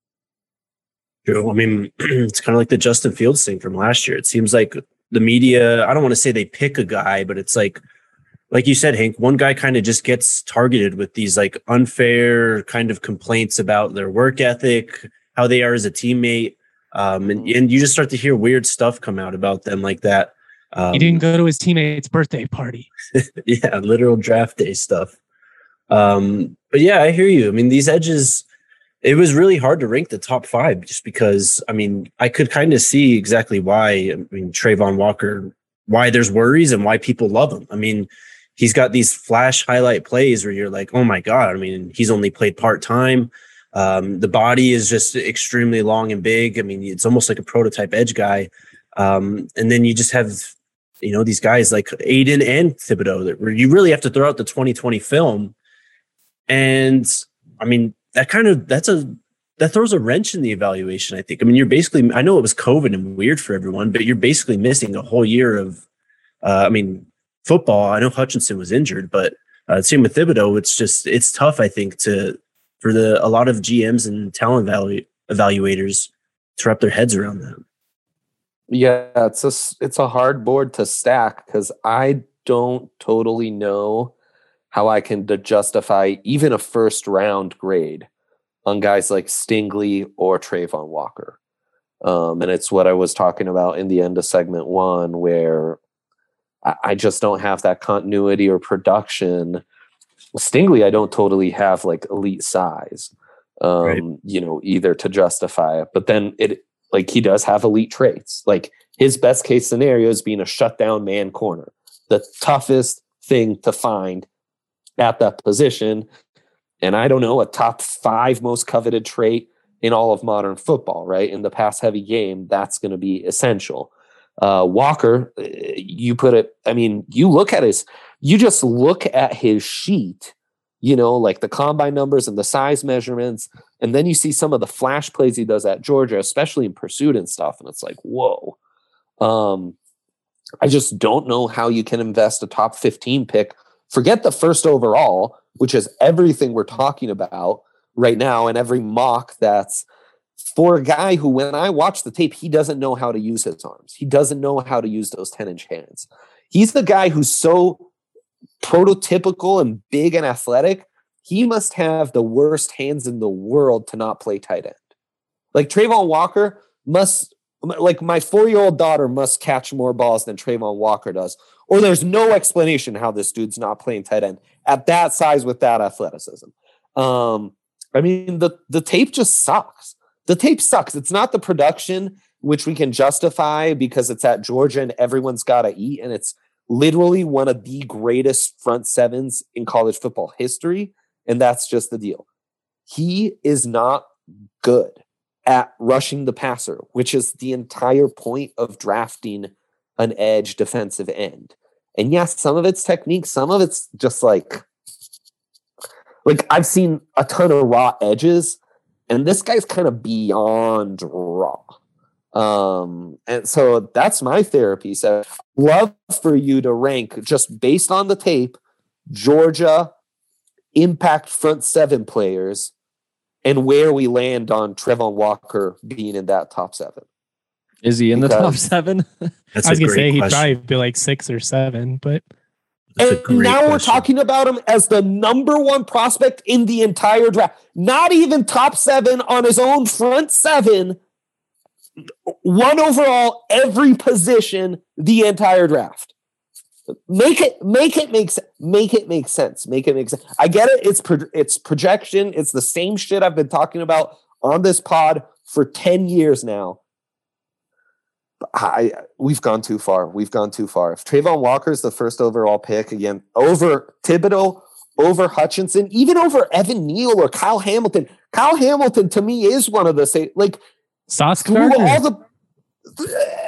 True. I mean, it's kind of like the Justin Fields thing from last year. It seems like the media, I don't want to say they pick a guy, but it's like, like you said, Hank, one guy kind of just gets targeted with these like unfair kind of complaints about their work ethic, how they are as a teammate. Um, and, and you just start to hear weird stuff come out about them like that. Um, He didn't go to his teammate's birthday party. yeah, literal draft day stuff. Um, but yeah, I hear you. I mean, these edges, it was really hard to rank the top five just because, I mean, I could kind of see exactly why. I mean, Trayvon Walker, why there's worries and why people love him. I mean, he's got these flash highlight plays where you're like, oh my God. I mean, he's only played part-time. Um, the body is just extremely long and big. I mean, it's almost like a prototype edge guy. Um, and then you just have, you know, these guys like Aiden and Thibodeau that where you really have to throw out the twenty twenty film. And I mean, that kind of, that's a, that throws a wrench in the evaluation, I think. I mean, you're basically, I know it was COVID and weird for everyone, but you're basically missing a whole year of, uh, I mean, football. I know Hutchinson was injured, but uh, same with Thibodeau. It's just, it's tough, I think, to, for the, a lot of G Ms and talent evalu- evaluators to wrap their heads around that. Yeah, it's a it's a hard board to stack because I don't totally know how I can d- justify even a first round grade on guys like Stingley or Trayvon Walker. Um, and it's what I was talking about in the end of segment one, where I, I just don't have that continuity or production. Stingley, I don't totally have like elite size, um, Right. you know, either to justify it, but then it, like he does have elite traits. Like his best case scenario is being a shutdown man corner, the toughest thing to find at that position. And I don't know, a top five most coveted trait in all of modern football, right? In the pass heavy game, that's going to be essential. Uh, Walker, you put it, I mean, you look at his, you just look at his sheet, you know, like the combine numbers and the size measurements. And then you see some of the flash plays he does at Georgia, especially in pursuit and stuff. And it's like, whoa. Um, I just don't know how you can invest a top fifteen pick. Forget the first overall, which is everything we're talking about right now and every mock that's for a guy who, when I watch the tape, he doesn't know how to use his arms. He doesn't know how to use those ten-inch hands. He's the guy who's so prototypical and big and athletic. He must have the worst hands in the world to not play tight end. Like Trayvon Walker must, like my four-year-old daughter must catch more balls than Trayvon Walker does. Or there's no explanation how this dude's not playing tight end at that size with that athleticism. Um, I mean, the, the tape just sucks. The tape sucks. It's not the production, which we can justify because it's at Georgia and everyone's got to eat. And it's literally one of the greatest front sevens in college football history. And that's just the deal. He is not good at rushing the passer, which is the entire point of drafting an edge defensive end. And yes, some of it's technique, some of it's just like, like I've seen a ton of raw edges, and this guy's kind of beyond raw. Um, and so that's my therapy. So love for you to rank just based on the tape, Georgia impact front seven players and where we land on Trayvon Walker being in that top seven. Is he in because, the top seven? That's I was a going to say he'd question. probably be like six or seven, but. And now question. We're talking about him as the number one prospect in the entire draft. Not even top seven on his own front seven. One overall, every position, the entire draft. Make it, make it make sense. Make it make sense. Make it make sense. I get it. It's pro- it's projection. It's the same shit I've been talking about on this pod for ten years now. I we've gone too far. We've gone too far. If Trayvon Walker is the first overall pick again over Thibodeau, over Hutchinson, even over Evan Neal or Kyle Hamilton. Kyle Hamilton to me is one of the same. Like Sauce Gardner. All the.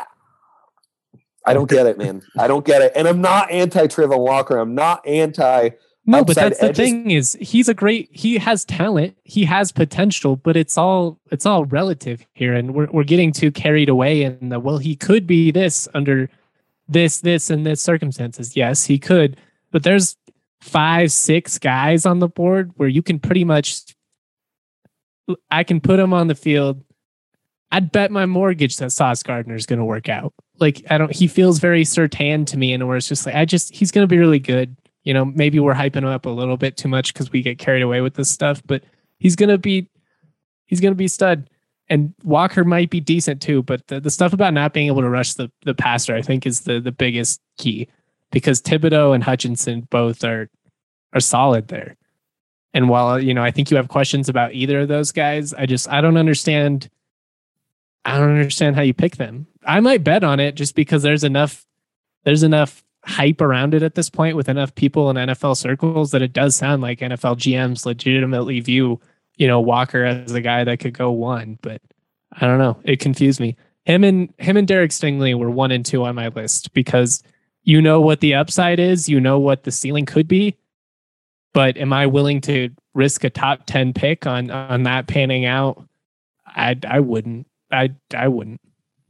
I don't get it, man. I don't get it. And I'm not anti Trayvon Walker. I'm not anti. No, but that's edges. The thing is he's a great, he has talent, he has potential, but it's all, it's all relative here. And we're, we're getting too carried away in the, well, he could be this under this, this, and this circumstances. Yes, he could, but there's five, six guys on the board where you can pretty much, I can put him on the field. I'd bet my mortgage that Sauce Gardner is going to work out. Like, I don't, he feels very Surtain to me, and where it's just like, I just, he's going to be really good. You know, maybe we're hyping him up a little bit too much because we get carried away with this stuff, but he's going to be, he's going to be stud. And Walker might be decent too, but the, the stuff about not being able to rush the, the passer, I think is the, the biggest key, because Thibodeau and Hutchinson both are, are solid there. And while, you know, I think you have questions about either of those guys, I just, I don't understand. I don't understand how you pick them. I might bet on it just because there's enough, there's enough hype around it at this point with enough people in N F L circles that it does sound like N F L G Ms legitimately view, you know, Walker as a guy that could go one, but I don't know. It confused me. Him and him and Derek Stingley were one and two on my list because you know what the upside is, you know what the ceiling could be, but am I willing to risk a top ten pick on on that panning out? I I wouldn't. I I wouldn't.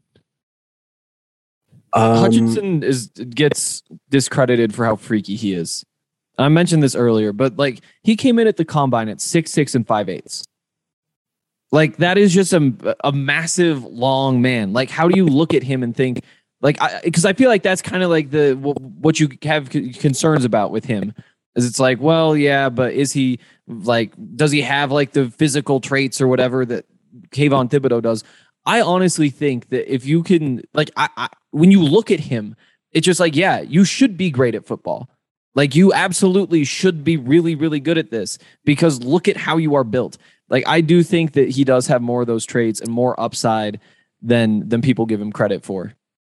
Um, Hutchinson is gets discredited for how freaky he is. I mentioned this earlier, but like he came in at the combine at six six and five eighths. Like that is just a a massive long man. Like how do you look at him and think like because I, I feel like that's kind of like the what you have concerns about with him is it's like well yeah, but is he like does he have like the physical traits or whatever that Kayvon Thibodeau does? I honestly think that if you can, like, I, I, when you look at him, it's just like, yeah, you should be great at football. Like, you absolutely should be really, really good at this because look at how you are built. Like, I do think that he does have more of those traits and more upside than than people give him credit for.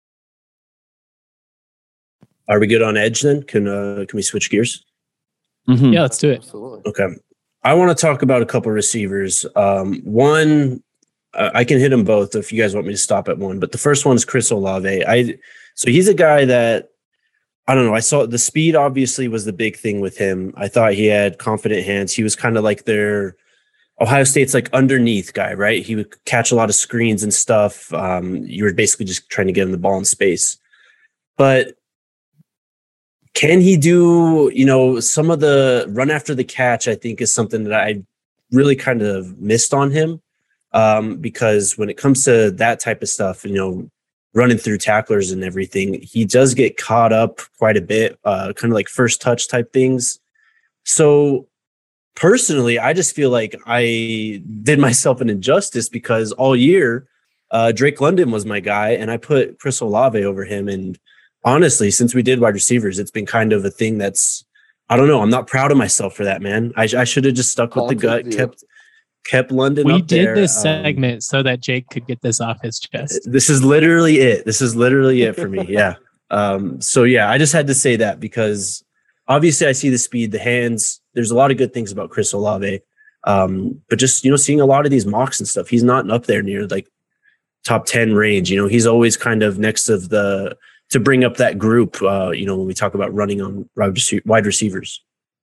Are we good on edge then? Can uh, can we switch gears? Mm-hmm. Yeah, let's do it. Absolutely. Okay. I want to talk about a couple receivers. Um, one. Uh, I can hit them both if you guys want me to stop at one. But the first one is Chris Olave. I so he's a guy that I don't know. I saw the speed obviously was the big thing with him. I thought he had confident hands. He was kind of like their Ohio State's like underneath guy, right? He would catch a lot of screens and stuff. Um, you were basically just trying to get him the ball in space. But can he do, you know, some of the run after the catch, I think is something that I really kind of missed on him. Um, because when it comes to that type of stuff, you know, running through tacklers and everything. He does get caught up quite a bit, uh, kind of like first touch type things. So personally, I just feel like I did myself an injustice because all year, uh, Drake London was my guy, and I put Chris Olave over him. And honestly, since we did wide receivers, it's been kind of a thing that's, I don't know. I'm not proud of myself for that, man. I, I should have just stuck with the gut, kept kept London We up did there. this Um, segment so that Jake could get this off his chest. This is literally it. This is literally it for me. Yeah. Um, so yeah, I just had to say that because obviously I see the speed, the hands. There's a lot of good things about Chris Olave. Um, but just, you know, seeing a lot of these mocks and stuff, he's not up there near like top ten range. You know, he's always kind of next of the, to bring up that group, uh, you know, when we talk about running on wide receivers.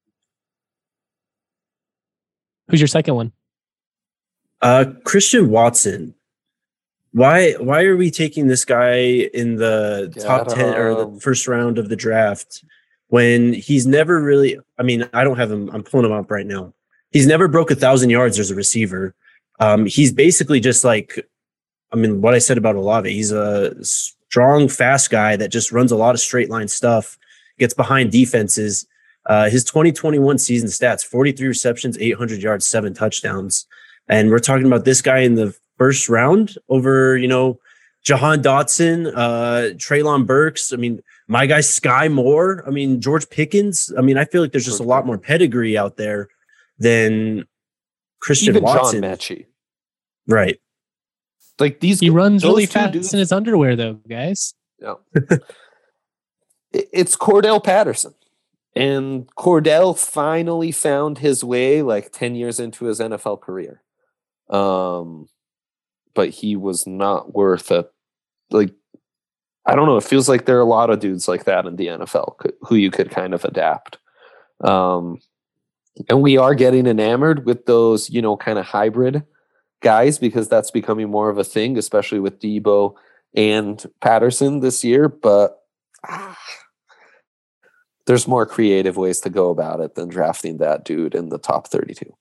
Who's your second one? Uh, Christian Watson. Why why are we taking this guy in the Get top ten or him. the first round of the draft when he's never really, I mean, I don't have him, I'm pulling him up right now. He's never broke a thousand yards as a receiver. Um, he's basically just like, I mean, what I said about Olave, he's a strong, fast guy that just runs a lot of straight line stuff, gets behind defenses. Uh, his twenty twenty-one season stats, forty-three receptions, eight hundred yards, seven touchdowns. And we're talking about this guy in the first round over, you know, Jahan Dotson, uh, Treylon Burks. I mean, my guy Sky Moore. I mean, George Pickens. I mean, I feel like there's just a lot more pedigree out there than Christian Even Watson. John Mechie. Right. Like these, He runs those really two fast dudes- in his underwear, though, guys. Yeah. It- it's Cordell Patterson. And Cordell finally found his way like ten years into his N F L career. Um, but he was not worth a, like, I don't know. It feels like there are a lot of dudes like that in the N F L who you could kind of adapt. Um, and we are getting enamored with those, you know, kind of hybrid guys because that's becoming more of a thing, especially with Debo and Patterson this year. But ah, there's more creative ways to go about it than drafting that dude in the top thirty-two.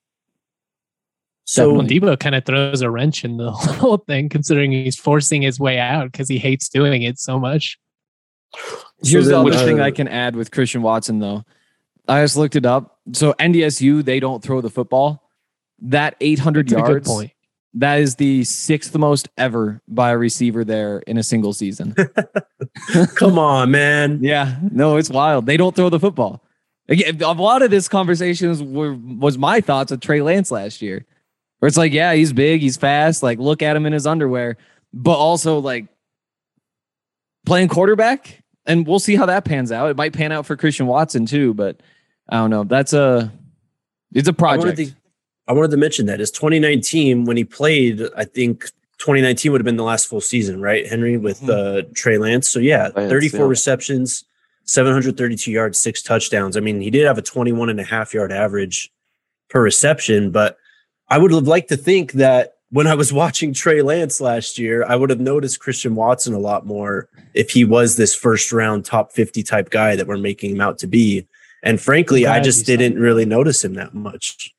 So Well, Debo kind of throws a wrench in the whole thing, considering he's forcing his way out because he hates doing it so much. Here's So the then, other uh, thing I can add with Christian Watson, though. I just looked it up. So N D S U, they don't throw the football. That eight hundred That's a good yards, point. that is the sixth most ever by a receiver there in a single season. come on, man. Yeah, no, it's wild. They don't throw the football. Again, a lot of this conversations were was my thoughts of Trey Lance last year, where it's like, yeah, he's big, he's fast. Like, look at him in his underwear, but also like playing quarterback, and we'll see how that pans out. It might pan out for Christian Watson too, but I don't know. That's a it's a I project. wanted, to, I wanted to mention that is twenty nineteen when he played. I think twenty nineteen would have been the last full season, right, Henry, with uh, Trey Lance. So yeah, Lance, thirty-four yeah. receptions, seven hundred thirty-two yards, six touchdowns. I mean, he did have a twenty-one and a half yard average per reception, but I would have liked to think that when I was watching Trey Lance last year, I would have noticed Christian Watson a lot more if he was this first round top fifty type guy that we're making him out to be. And frankly, I'm I glad just you saw didn't really notice him that much.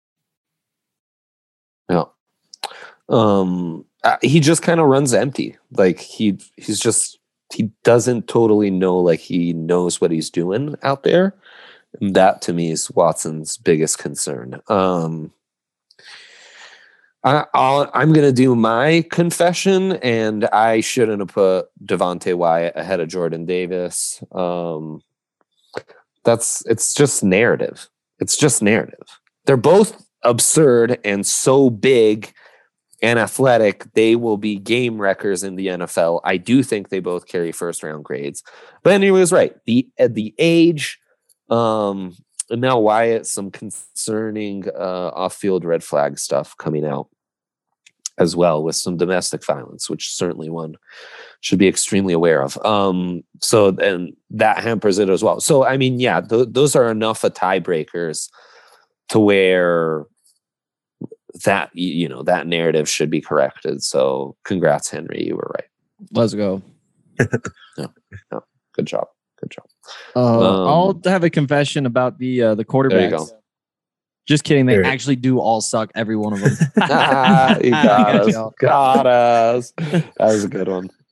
Yeah. Um, uh, he just kind of runs empty. Like he, he's just, he doesn't totally know, like he knows what he's doing out there. And that to me is Watson's biggest concern. Um, I, I'll, I'm going to do my confession, and I shouldn't have put Devontae Wyatt ahead of Jordan Davis. Um, that's, it's just narrative. It's just narrative. They're both absurd and so big and athletic. They will be game wreckers in the N F L. I do think they both carry first round grades. But Henry was right. The, uh, the age, um, and now Wyatt, some concerning uh, off-field red flag stuff coming out as well, with some domestic violence, which certainly one should be extremely aware of. Um, so and that hampers it as well. So, I mean, yeah, th- those are enough of tiebreakers to where that, you know, that narrative should be corrected. So congrats, Henry. You were right. Let's go. No, no, good job. Good job. Uh, Um, I'll have a confession about the uh, the quarterbacks. There you go. Just kidding. They There. actually do all suck. Every one of them. Ah, you got Got us. y'all. Got us. That was a good one.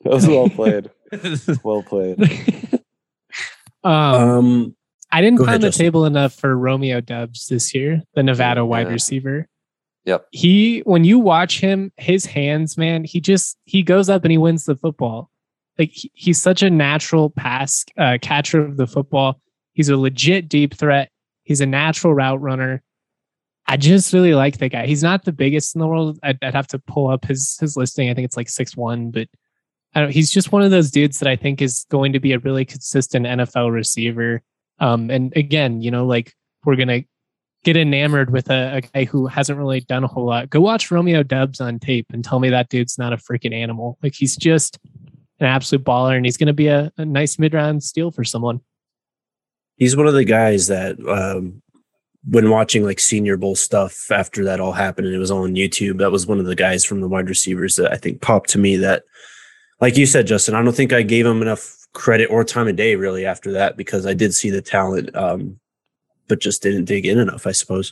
was well played. Well played. um, Um, I didn't go pound ahead, the Justin. table enough for Romeo Dubs this year, the Nevada Yeah. wide receiver. Yep. He, when you watch him, his hands, man, he just he goes up and he wins the football. Like he, he's such a natural pass uh, catcher of the football. He's a legit deep threat. He's a natural route runner. I just really like the guy. He's not the biggest in the world. I'd, I'd have to pull up his his listing. I think it's like six one, but I don't, he's just one of those dudes that I think is going to be a really consistent N F L receiver. Um, and again, you know, like we're gonna get enamored with a, a guy who hasn't really done a whole lot. Go watch Romeo Dubs on tape and tell me that dude's not a freaking animal. Like he's just an absolute baller, and he's going to be a, a nice mid-round steal for someone. He's one of the guys that, um, when watching like Senior Bowl stuff after that all happened and it was all on YouTube, that was one of the guys from the wide receivers that I think popped to me that, like you said, Justin, I don't think I gave him enough credit or time of day really after that, because I did see the talent, um, but just didn't dig in enough, I suppose.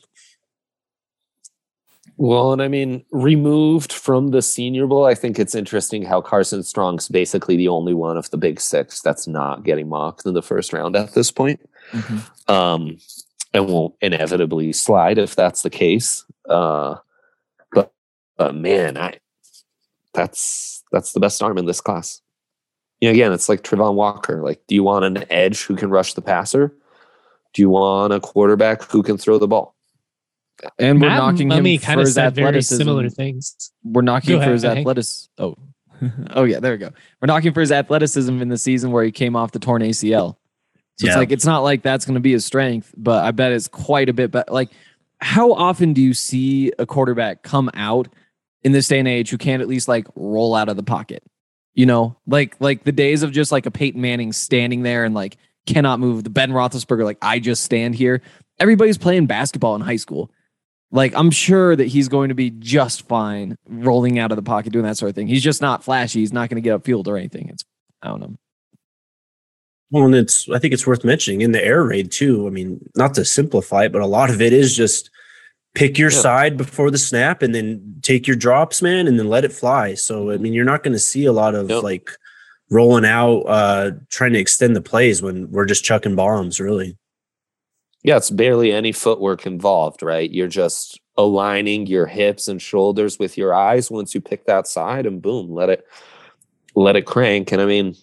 Well, and I mean, removed from the Senior Bowl, I think it's interesting how Carson Strong's basically the only one of the big six that's not getting mocked in the first round at this point. Mm-hmm. Um, and will inevitably slide if that's the case. Uh, but, but man, I that's that's the best arm in this class. You know, again, it's like Trevon Walker. Like, do you want an edge who can rush the passer? Do you want a quarterback who can throw the ball? And we're Matt knocking Mummy him for kind of his said very athleticism. similar things. We're knocking Go for ahead, his Hank. athleticism. Oh, oh yeah, there we go. We're knocking for his athleticism in the season where he came off the torn A C L. So Yeah. it's like, it's not like that's going to be his strength, but I bet it's quite a bit better. Like, how often do you see a quarterback come out in this day and age who can't at least like roll out of the pocket? You know, like, like the days of just like a Peyton Manning standing there and like cannot move, the Ben Roethlisberger, like I just stand here. Everybody's playing basketball in high school. Like, I'm sure that he's going to be just fine rolling out of the pocket, doing that sort of thing. He's just not flashy. He's not going to get upfield or anything. It's, I don't know. Well, and it's, I think it's worth mentioning in the air raid too. I mean, not to simplify it, but a lot of it is just pick your Yeah. side before the snap and then take your drops, man, and then let it fly. So, I mean, you're not going to see a lot of Yep. like rolling out, uh, trying to extend the plays when we're just chucking bombs, really. Yeah, it's barely any footwork involved, right? You're just aligning your hips and shoulders with your eyes once you pick that side, and boom, let it let it crank. And I mean,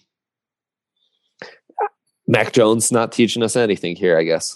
Mac Jones not teaching us anything here, I guess.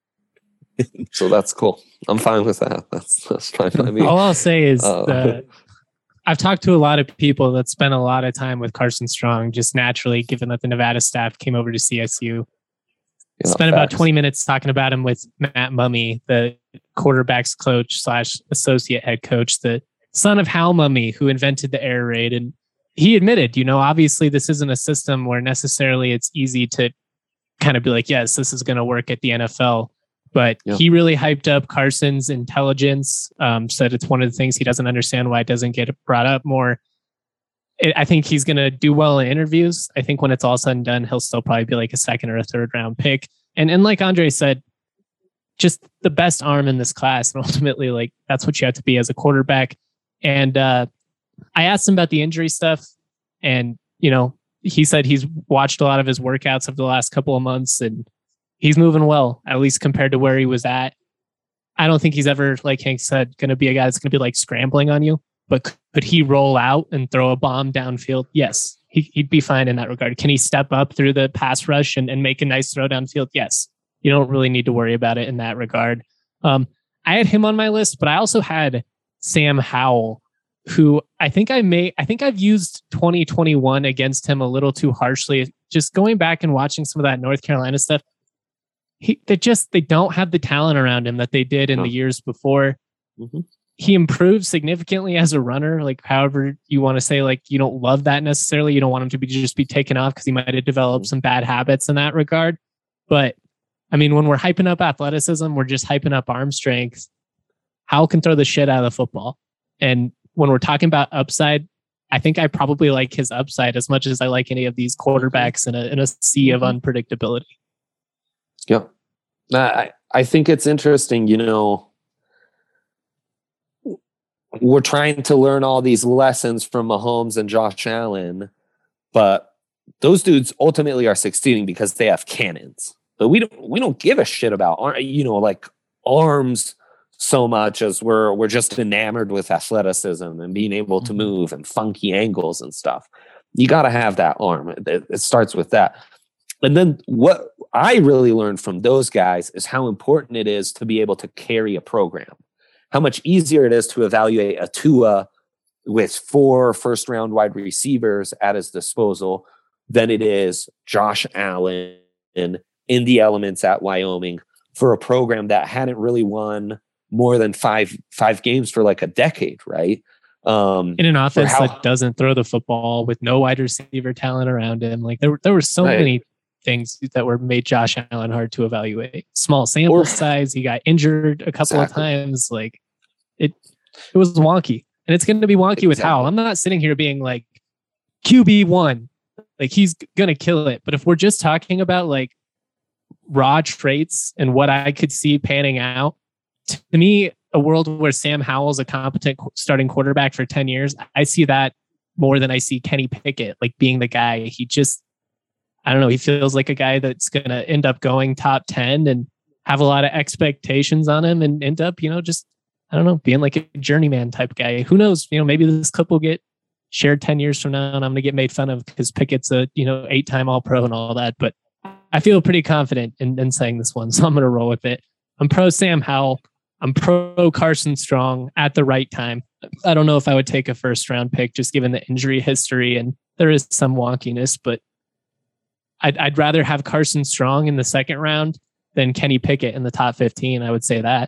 So that's cool. I'm fine with that. That's that's fine by me. All I'll say is Uh, the, I've talked to a lot of people that spent a lot of time with Carson Strong, just naturally, given that the Nevada staff came over to C S U. Yeah, Spent about facts. twenty minutes talking about him with Matt Mummy, the quarterbacks coach slash associate head coach, the son of Hal Mummy, who invented the air raid. And he admitted, you know, obviously this isn't a system where necessarily it's easy to kind of be like, yes, this is going to work at the N F L. But Yeah. he really hyped up Carson's intelligence, um, said it's one of the things he doesn't understand why it doesn't get brought up more. It, I think he's going to do well in interviews. I think when it's all said and done, he'll still probably be like a second or a third round pick. And and like Andre said, just the best arm in this class. And ultimately, like that's what you have to be as a quarterback. And uh, I asked him about the injury stuff, and you know, he said he's watched a lot of his workouts of the last couple of months, and he's moving well, at least compared to where he was at. I don't think he's ever, like Hank said, going to be a guy that's going to be like scrambling on you. But could he roll out and throw a bomb downfield? Yes, he, he'd be fine in that regard. Can he step up through the pass rush and, and make a nice throw downfield? Yes. You don't really need to worry about it in that regard. Um, I had him on my list, but I also had Sam Howell, who I think I may, I think I've used twenty twenty-one against him a little too harshly. Just going back and watching some of that North Carolina stuff, he, they just, they don't have the talent around him that they did in No. the years before. Mm-hmm. He improved significantly as a runner. Like, however you want to say, like, you don't love that necessarily. You don't want him to be just be taken off because he might have developed some bad habits in that regard. But I mean, when we're hyping up athleticism, we're just hyping up arm strength. Howell can throw the shit out of the football. And when we're talking about upside, I think I probably like his upside as much as I like any of these quarterbacks in a in a sea of unpredictability. Yeah. I, I think it's interesting, you know, we're trying to learn all these lessons from Mahomes and Josh Allen, but those dudes ultimately are succeeding because they have cannons. But we don't we don't give a shit about, you know, like arms so much as we're we're just enamored with athleticism and being able to move and funky angles and stuff. You got to have that arm. It, it starts with that. And then what I really learned from those guys is how important it is to be able to carry a program. How much easier it is to evaluate a Tua with four first round wide receivers at his disposal than it is Josh Allen in the elements at Wyoming for a program that hadn't really won more than five five games for like a decade, right? Um, in an offense how, that doesn't throw the football with no wide receiver talent around him. Like there, there were so right. many things that were made Josh Allen hard to evaluate. Small sample or, size. He got injured a couple exactly. of times. Like it, it was wonky, and it's going to be wonky exactly. with Howell. I'm not sitting here being like Q B one, like he's going to kill it. But if we're just talking about like raw traits and what I could see panning out, to me, a world where Sam Howell's a competent starting quarterback for ten years, I see that more than I see Kenny Pickett, like being the guy. He just, I don't know, he feels like a guy that's going to end up going top ten and have a lot of expectations on him and end up, you know, just, I don't know, being like a journeyman type guy. Who knows? You know, maybe this clip will get shared ten years from now and I'm going to get made fun of because Pickett's a, you know, eight time all pro and all that. But I feel pretty confident in, in saying this one. So I'm going to roll with it. I'm pro Sam Howell. I'm pro Carson Strong at the right time. I don't know if I would take a first round pick just given the injury history and there is some wonkiness, but I'd, I'd rather have Carson Strong in the second round than Kenny Pickett in the top fifteen. I would say that.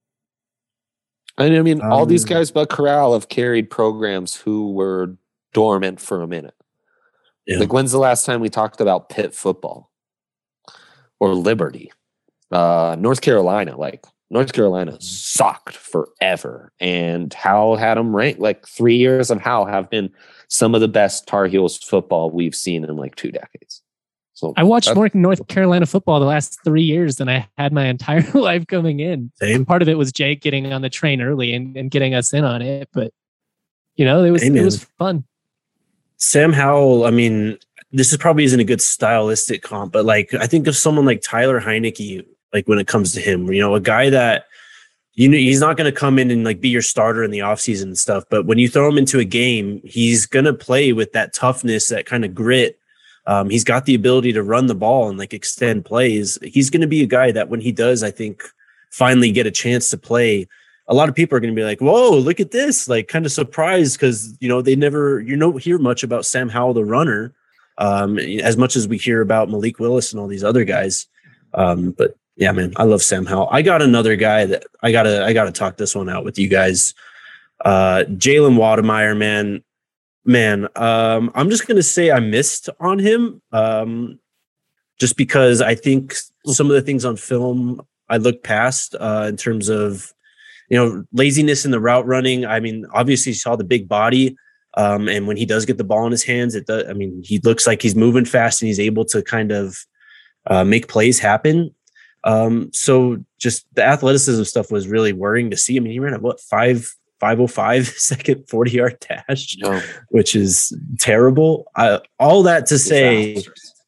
And I mean, um, all these guys but Corral have carried programs who were dormant for a minute. Yeah. Like when's the last time we talked about Pitt football or Liberty? Uh, North Carolina, like North Carolina sucked forever, and Howell had them ranked. Like three years of Howell have been some of the best Tar Heels football we've seen in like two decades. So I watched more North Carolina football the last three years than I had my entire life coming in. Same. Part of it was Jake getting on the train early and, and getting us in on it, but you know, it was Amen. It was fun. Sam Howell, I mean, this is probably isn't a good stylistic comp, but like I think of someone like Tyler Heineke. Like when it comes to him, you know, a guy that, you know, he's not going to come in and like be your starter in the offseason and stuff. But when you throw him into a game, he's going to play with that toughness, that kind of grit. Um, he's got the ability to run the ball and like extend plays. He's going to be a guy that when he does, I think, finally get a chance to play, a lot of people are going to be like, whoa, look at this, like kind of surprised because, you know, they never, you don't hear much about Sam Howell, the runner, um, as much as we hear about Malik Willis and all these other guys. Um, but yeah, man, I love Sam Howell. I got another guy that I gotta I gotta talk this one out with you guys. Uh, Jalen Wademeyer, man, man. Um, I'm just gonna say I missed on him, um, just because I think some of the things on film I looked past uh, in terms of, you know, laziness in the route running. I mean, obviously you saw the big body, um, and when he does get the ball in his hands, it does. I mean, he looks like he's moving fast and he's able to kind of uh, make plays happen. Um, so just the athleticism stuff was really worrying to see. I mean, he ran at what five, five oh five second forty yard dash, no. which is terrible. Uh, all that to say,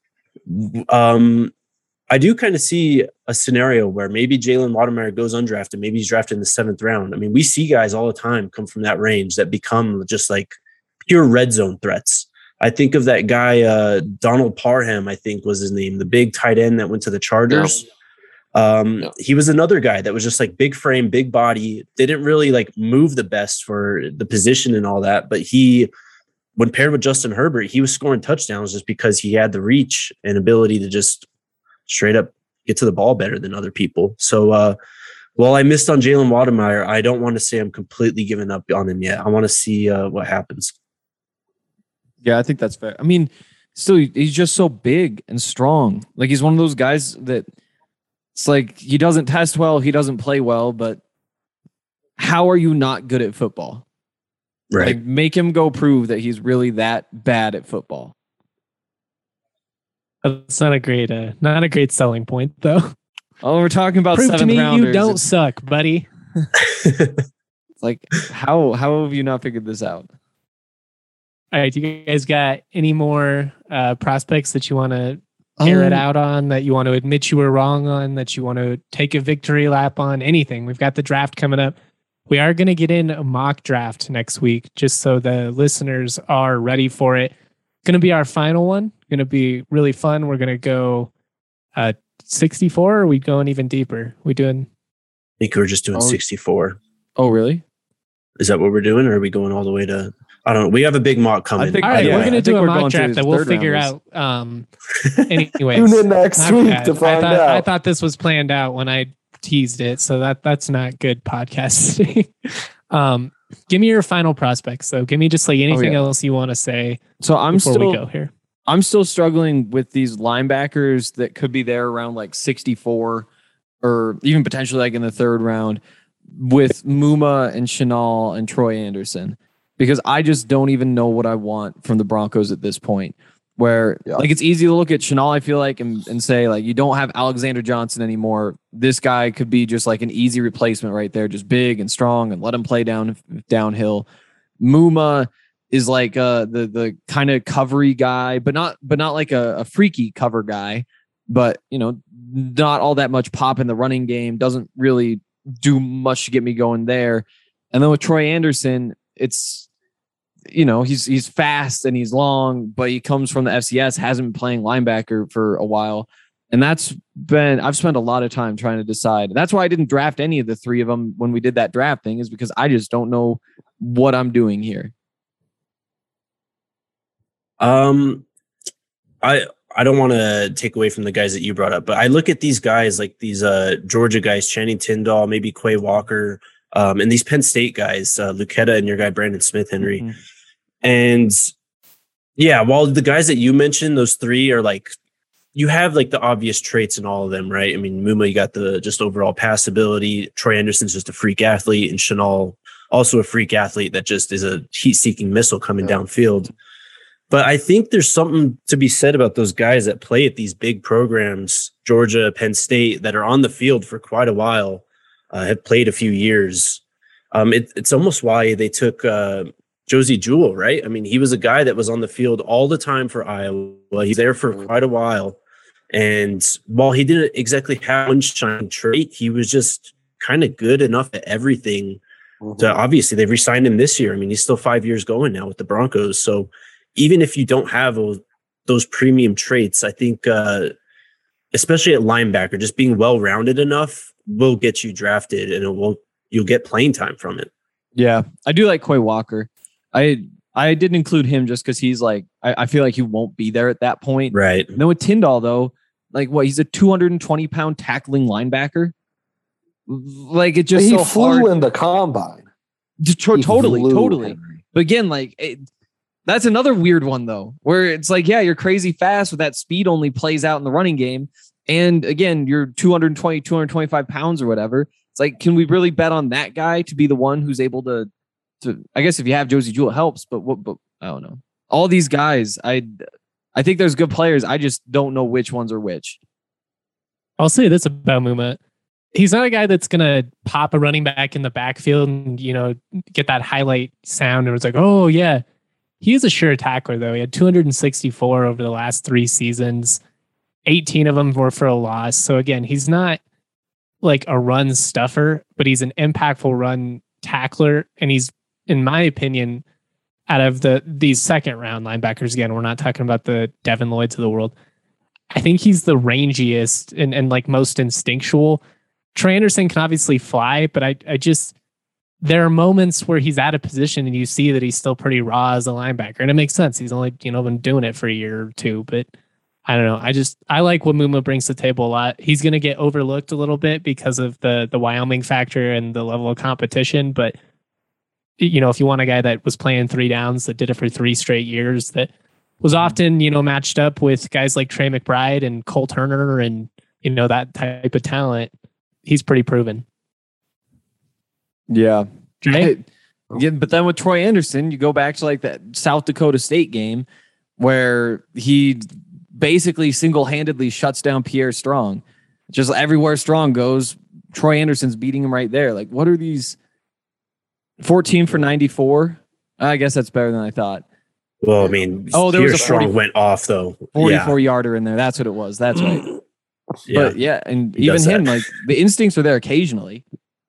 um, I do kind of see a scenario where maybe Jalen Wademeyer goes undrafted. Maybe he's drafted in the seventh round. I mean, we see guys all the time come from that range that become just like pure red zone threats. I think of that guy, uh, Donald Parham, I think was his name, the big tight end that went to the Chargers. No. Um, no. He was another guy that was just like big frame, big body, didn't really like move the best for the position and all that. But he, when paired with Justin Herbert, he was scoring touchdowns just because he had the reach and ability to just straight up get to the ball better than other people. So, uh, while I missed on Jalen Wademeyer, I don't want to say I'm completely giving up on him yet. I want to see uh, what happens. Yeah, I think that's fair. I mean, still, he's just so big and strong. Like he's one of those guys that, it's like he doesn't test well, he doesn't play well, but how are you not good at football? Right. Like make him go prove that he's really that bad at football. That's not a great, uh, not a great selling point, though. Oh, we're talking about prove seventh to me rounders. You don't suck, buddy. It's like how how have you not figured this out? All right, do you guys got any more uh, prospects that you want to air it Um, out on, that you want to admit you were wrong on, that you want to take a victory lap on? Anything? We've got the draft coming up. We are going to get in a mock draft next week, just so the listeners are ready for it. Going to be our final one. Going to be really fun. We're going to go uh, sixty-four. Or are we going even deeper? We doing? I think we're just doing Oh. sixty-four. Oh, really? Is that what we're doing, or are we going all the way to? I don't know. We have a big mock coming. think- All right, yeah, we're going I to think do a we're mock going draft through that we'll third figure rounders. out. Um, anyways, Tune in next My week bad. to find I thought, out. I thought this was planned out when I teased it, so that that's not good podcasting. um, give me your final prospects, though. Give me just like anything yeah. else you want to say So I'm before still we go here. I'm still struggling with these linebackers that could be there around like sixty-four or even potentially like in the third round with Muma and Chenal and Troy Anderson, because I just don't even know what I want from the Broncos at this point. Where Yeah. like it's easy to look at Chenal, I feel like, and, and say like you don't have Alexander Johnson anymore. This guy could be just like an easy replacement right there, just big and strong, and let him play down downhill. Muma is like uh the the kind of covery guy, but not but not like a, a freaky cover guy, but you know, not all that much pop in the running game, doesn't really do much to get me going there. And then with Troy Anderson, it's you know, he's he's fast and he's long, but he comes from the F C S, hasn't been playing linebacker for a while. And that's been, I've spent a lot of time trying to decide. That's why I didn't draft any of the three of them when we did that draft thing, is because I just don't know what I'm doing here. Um, I I don't want to take away from the guys that you brought up, but I look at these guys like these uh Georgia guys, Channing Tindall, maybe Quay Walker, um, and these Penn State guys, uh, Lucetta and your guy Brandon Smith Henry, Mhm. and yeah, while the guys that you mentioned, those three are like, you have like the obvious traits in all of them, right? I mean, Muma, you got the just overall pass ability. Troy Anderson's just a freak athlete, and Chenal also a freak athlete that just is a heat-seeking missile coming Yeah. downfield. But I think there's something to be said about those guys that play at these big programs, Georgia, Penn State, that are on the field for quite a while, uh, have played a few years. Um, it, it's almost why they took uh, Josie Jewell, right? I mean, he was a guy that was on the field all the time for Iowa. He's there for quite a while. And while he didn't exactly have one shining trait, he was just kind of good enough at everything. Mhm. To, obviously, they've re-signed him this year. I mean, he's still five years going now with the Broncos. So even if you don't have those, those premium traits, I think, uh, especially at linebacker, just being well-rounded enough will get you drafted, and it will you'll get playing time from it. Yeah, I do like Quay Walker. I I didn't include him just because he's like, I, I feel like he won't be there at that point. Right. And then with Tyndall, though, like what, he's a two hundred twenty pound tackling linebacker. Like it just he so flew hard. in the combine. To- to- He totally, flew, totally. Henry. But again, like it, that's another weird one though, where it's like, yeah, you're crazy fast, but that speed only plays out in the running game. And again, you're two hundred twenty, two hundred twenty-five pounds or whatever. It's like, can we really bet on that guy to be the one who's able to, to, I guess if you have Josie Jewell, it helps, but what, but I don't know. All these guys, I, I think there's good players. I just don't know which ones are which. I'll say this about Muma. He's not a guy that's going to pop a running back in the backfield and, you know, get that highlight sound. And it's like, oh, yeah. He is a sure tackler, though. He had two hundred sixty-four over the last three seasons. eighteen of them were for a loss. So, again, he's not like a run stuffer, but he's an impactful run tackler. And he's, in my opinion, out of the these second round linebackers, again, we're not talking about the Devin Lloyds of the world. I think he's the rangiest and, and like most instinctual. Trey Anderson can obviously fly, but I, I just, there are moments where he's out of position and you see that he's still pretty raw as a linebacker. And it makes sense. He's only, you know, been doing it for a year or two, but I don't know. I just, I like what Muma brings to the table a lot. He's going to get overlooked a little bit because of the, the Wyoming factor and the level of competition. But, you know, if you want a guy that was playing three downs, that did it for three straight years, that was often, you know, matched up with guys like Trey McBride and Cole Turner and, you know, that type of talent, he's pretty proven. Yeah. Right? Yeah, but then with Troy Anderson, you go back to like that South Dakota State game where he basically single-handedly shuts down Pierre Strong. Just everywhere Strong goes, Troy Anderson's beating him right there. Like, what are these? fourteen for ninety-four. I guess that's better than I thought. Well, I mean, Oh, there was Pierce a forty Strong went off though. forty-four yarder in there. That's what it was. That's right. Yeah. But yeah, and He even does him, that. like the instincts are there occasionally.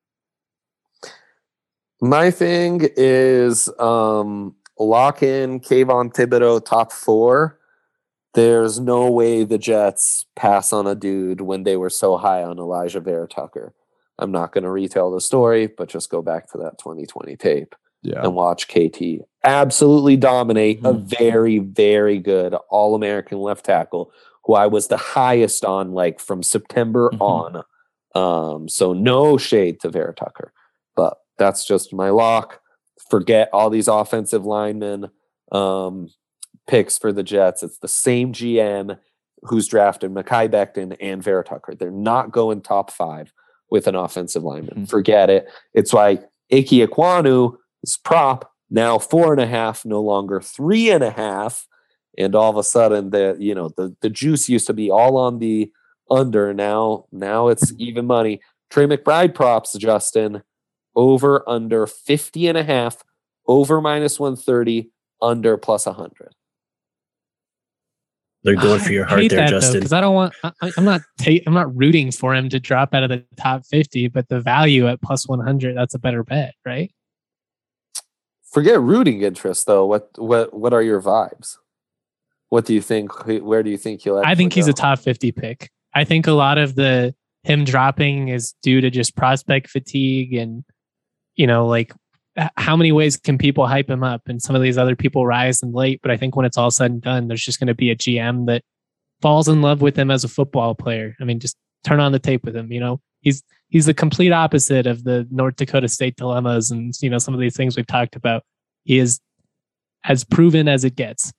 My thing is um, lock in Kayvon Thibodeau top four. There's no way the Jets pass on a dude when they were so high on Elijah Vera Tucker. I'm not going to retell the story, but just go back to that twenty twenty tape Yeah. and watch K T absolutely dominate Mhm. a very, very good All-American left tackle who I was the highest on like from September Mhm. on. Um, so no shade to Vera Tucker, but that's just my lock. Forget all these offensive linemen um, picks for the Jets. It's the same G M who's drafted Mekhi Becton and Vera Tucker. They're not going top five with an offensive lineman. Mm-hmm. Forget it. It's why Ike Ekwonu is prop now four and a half, no longer three and a half. And all of a sudden, the you know the the juice used to be all on the under. Now now it's even money. Trey McBride props, Justin, over under fifty and a half, over minus one thirty, under plus one hundred. They're going for your I heart hate there, that, Justin. because I don't want. I, I'm not. Ta- I'm not rooting for him to drop out of the top fifty, but the value at plus one hundred, that's a better bet, right? Forget rooting interest, though. What what what are your vibes? What do you think? Where do you think he'll? I think he's go? a top fifty pick. I think a lot of the him dropping is due to just prospect fatigue, and you know, like h- how many ways can people hype him up, and some of these other people rise and late. But I think when it's all said and done, there's just going to be a G M that falls in love with him as a football player. I mean, just turn on the tape with him. You know, he's he's the complete opposite of the North Dakota State dilemmas, and you know some of these things we've talked about. He is as proven as it gets.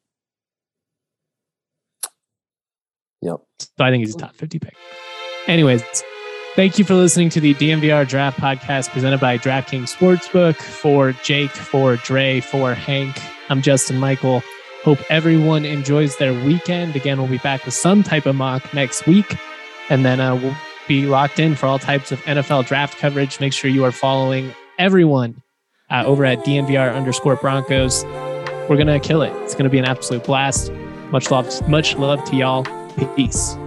Yep. So I think he's a top fifty pick. Anyways, thank you for listening to the D N V R Draft Podcast presented by DraftKings Sportsbook. For Jake, for Dre, for Hank, I'm Justin Michael. Hope everyone enjoys their weekend. Again, we'll be back with some type of mock next week. And then uh, we'll be locked in for all types of N F L draft coverage. Make sure you are following everyone uh, over at D N V R underscore Broncos. We're going to kill it. It's going to be an absolute blast. Much love, much love to y'all. Peace.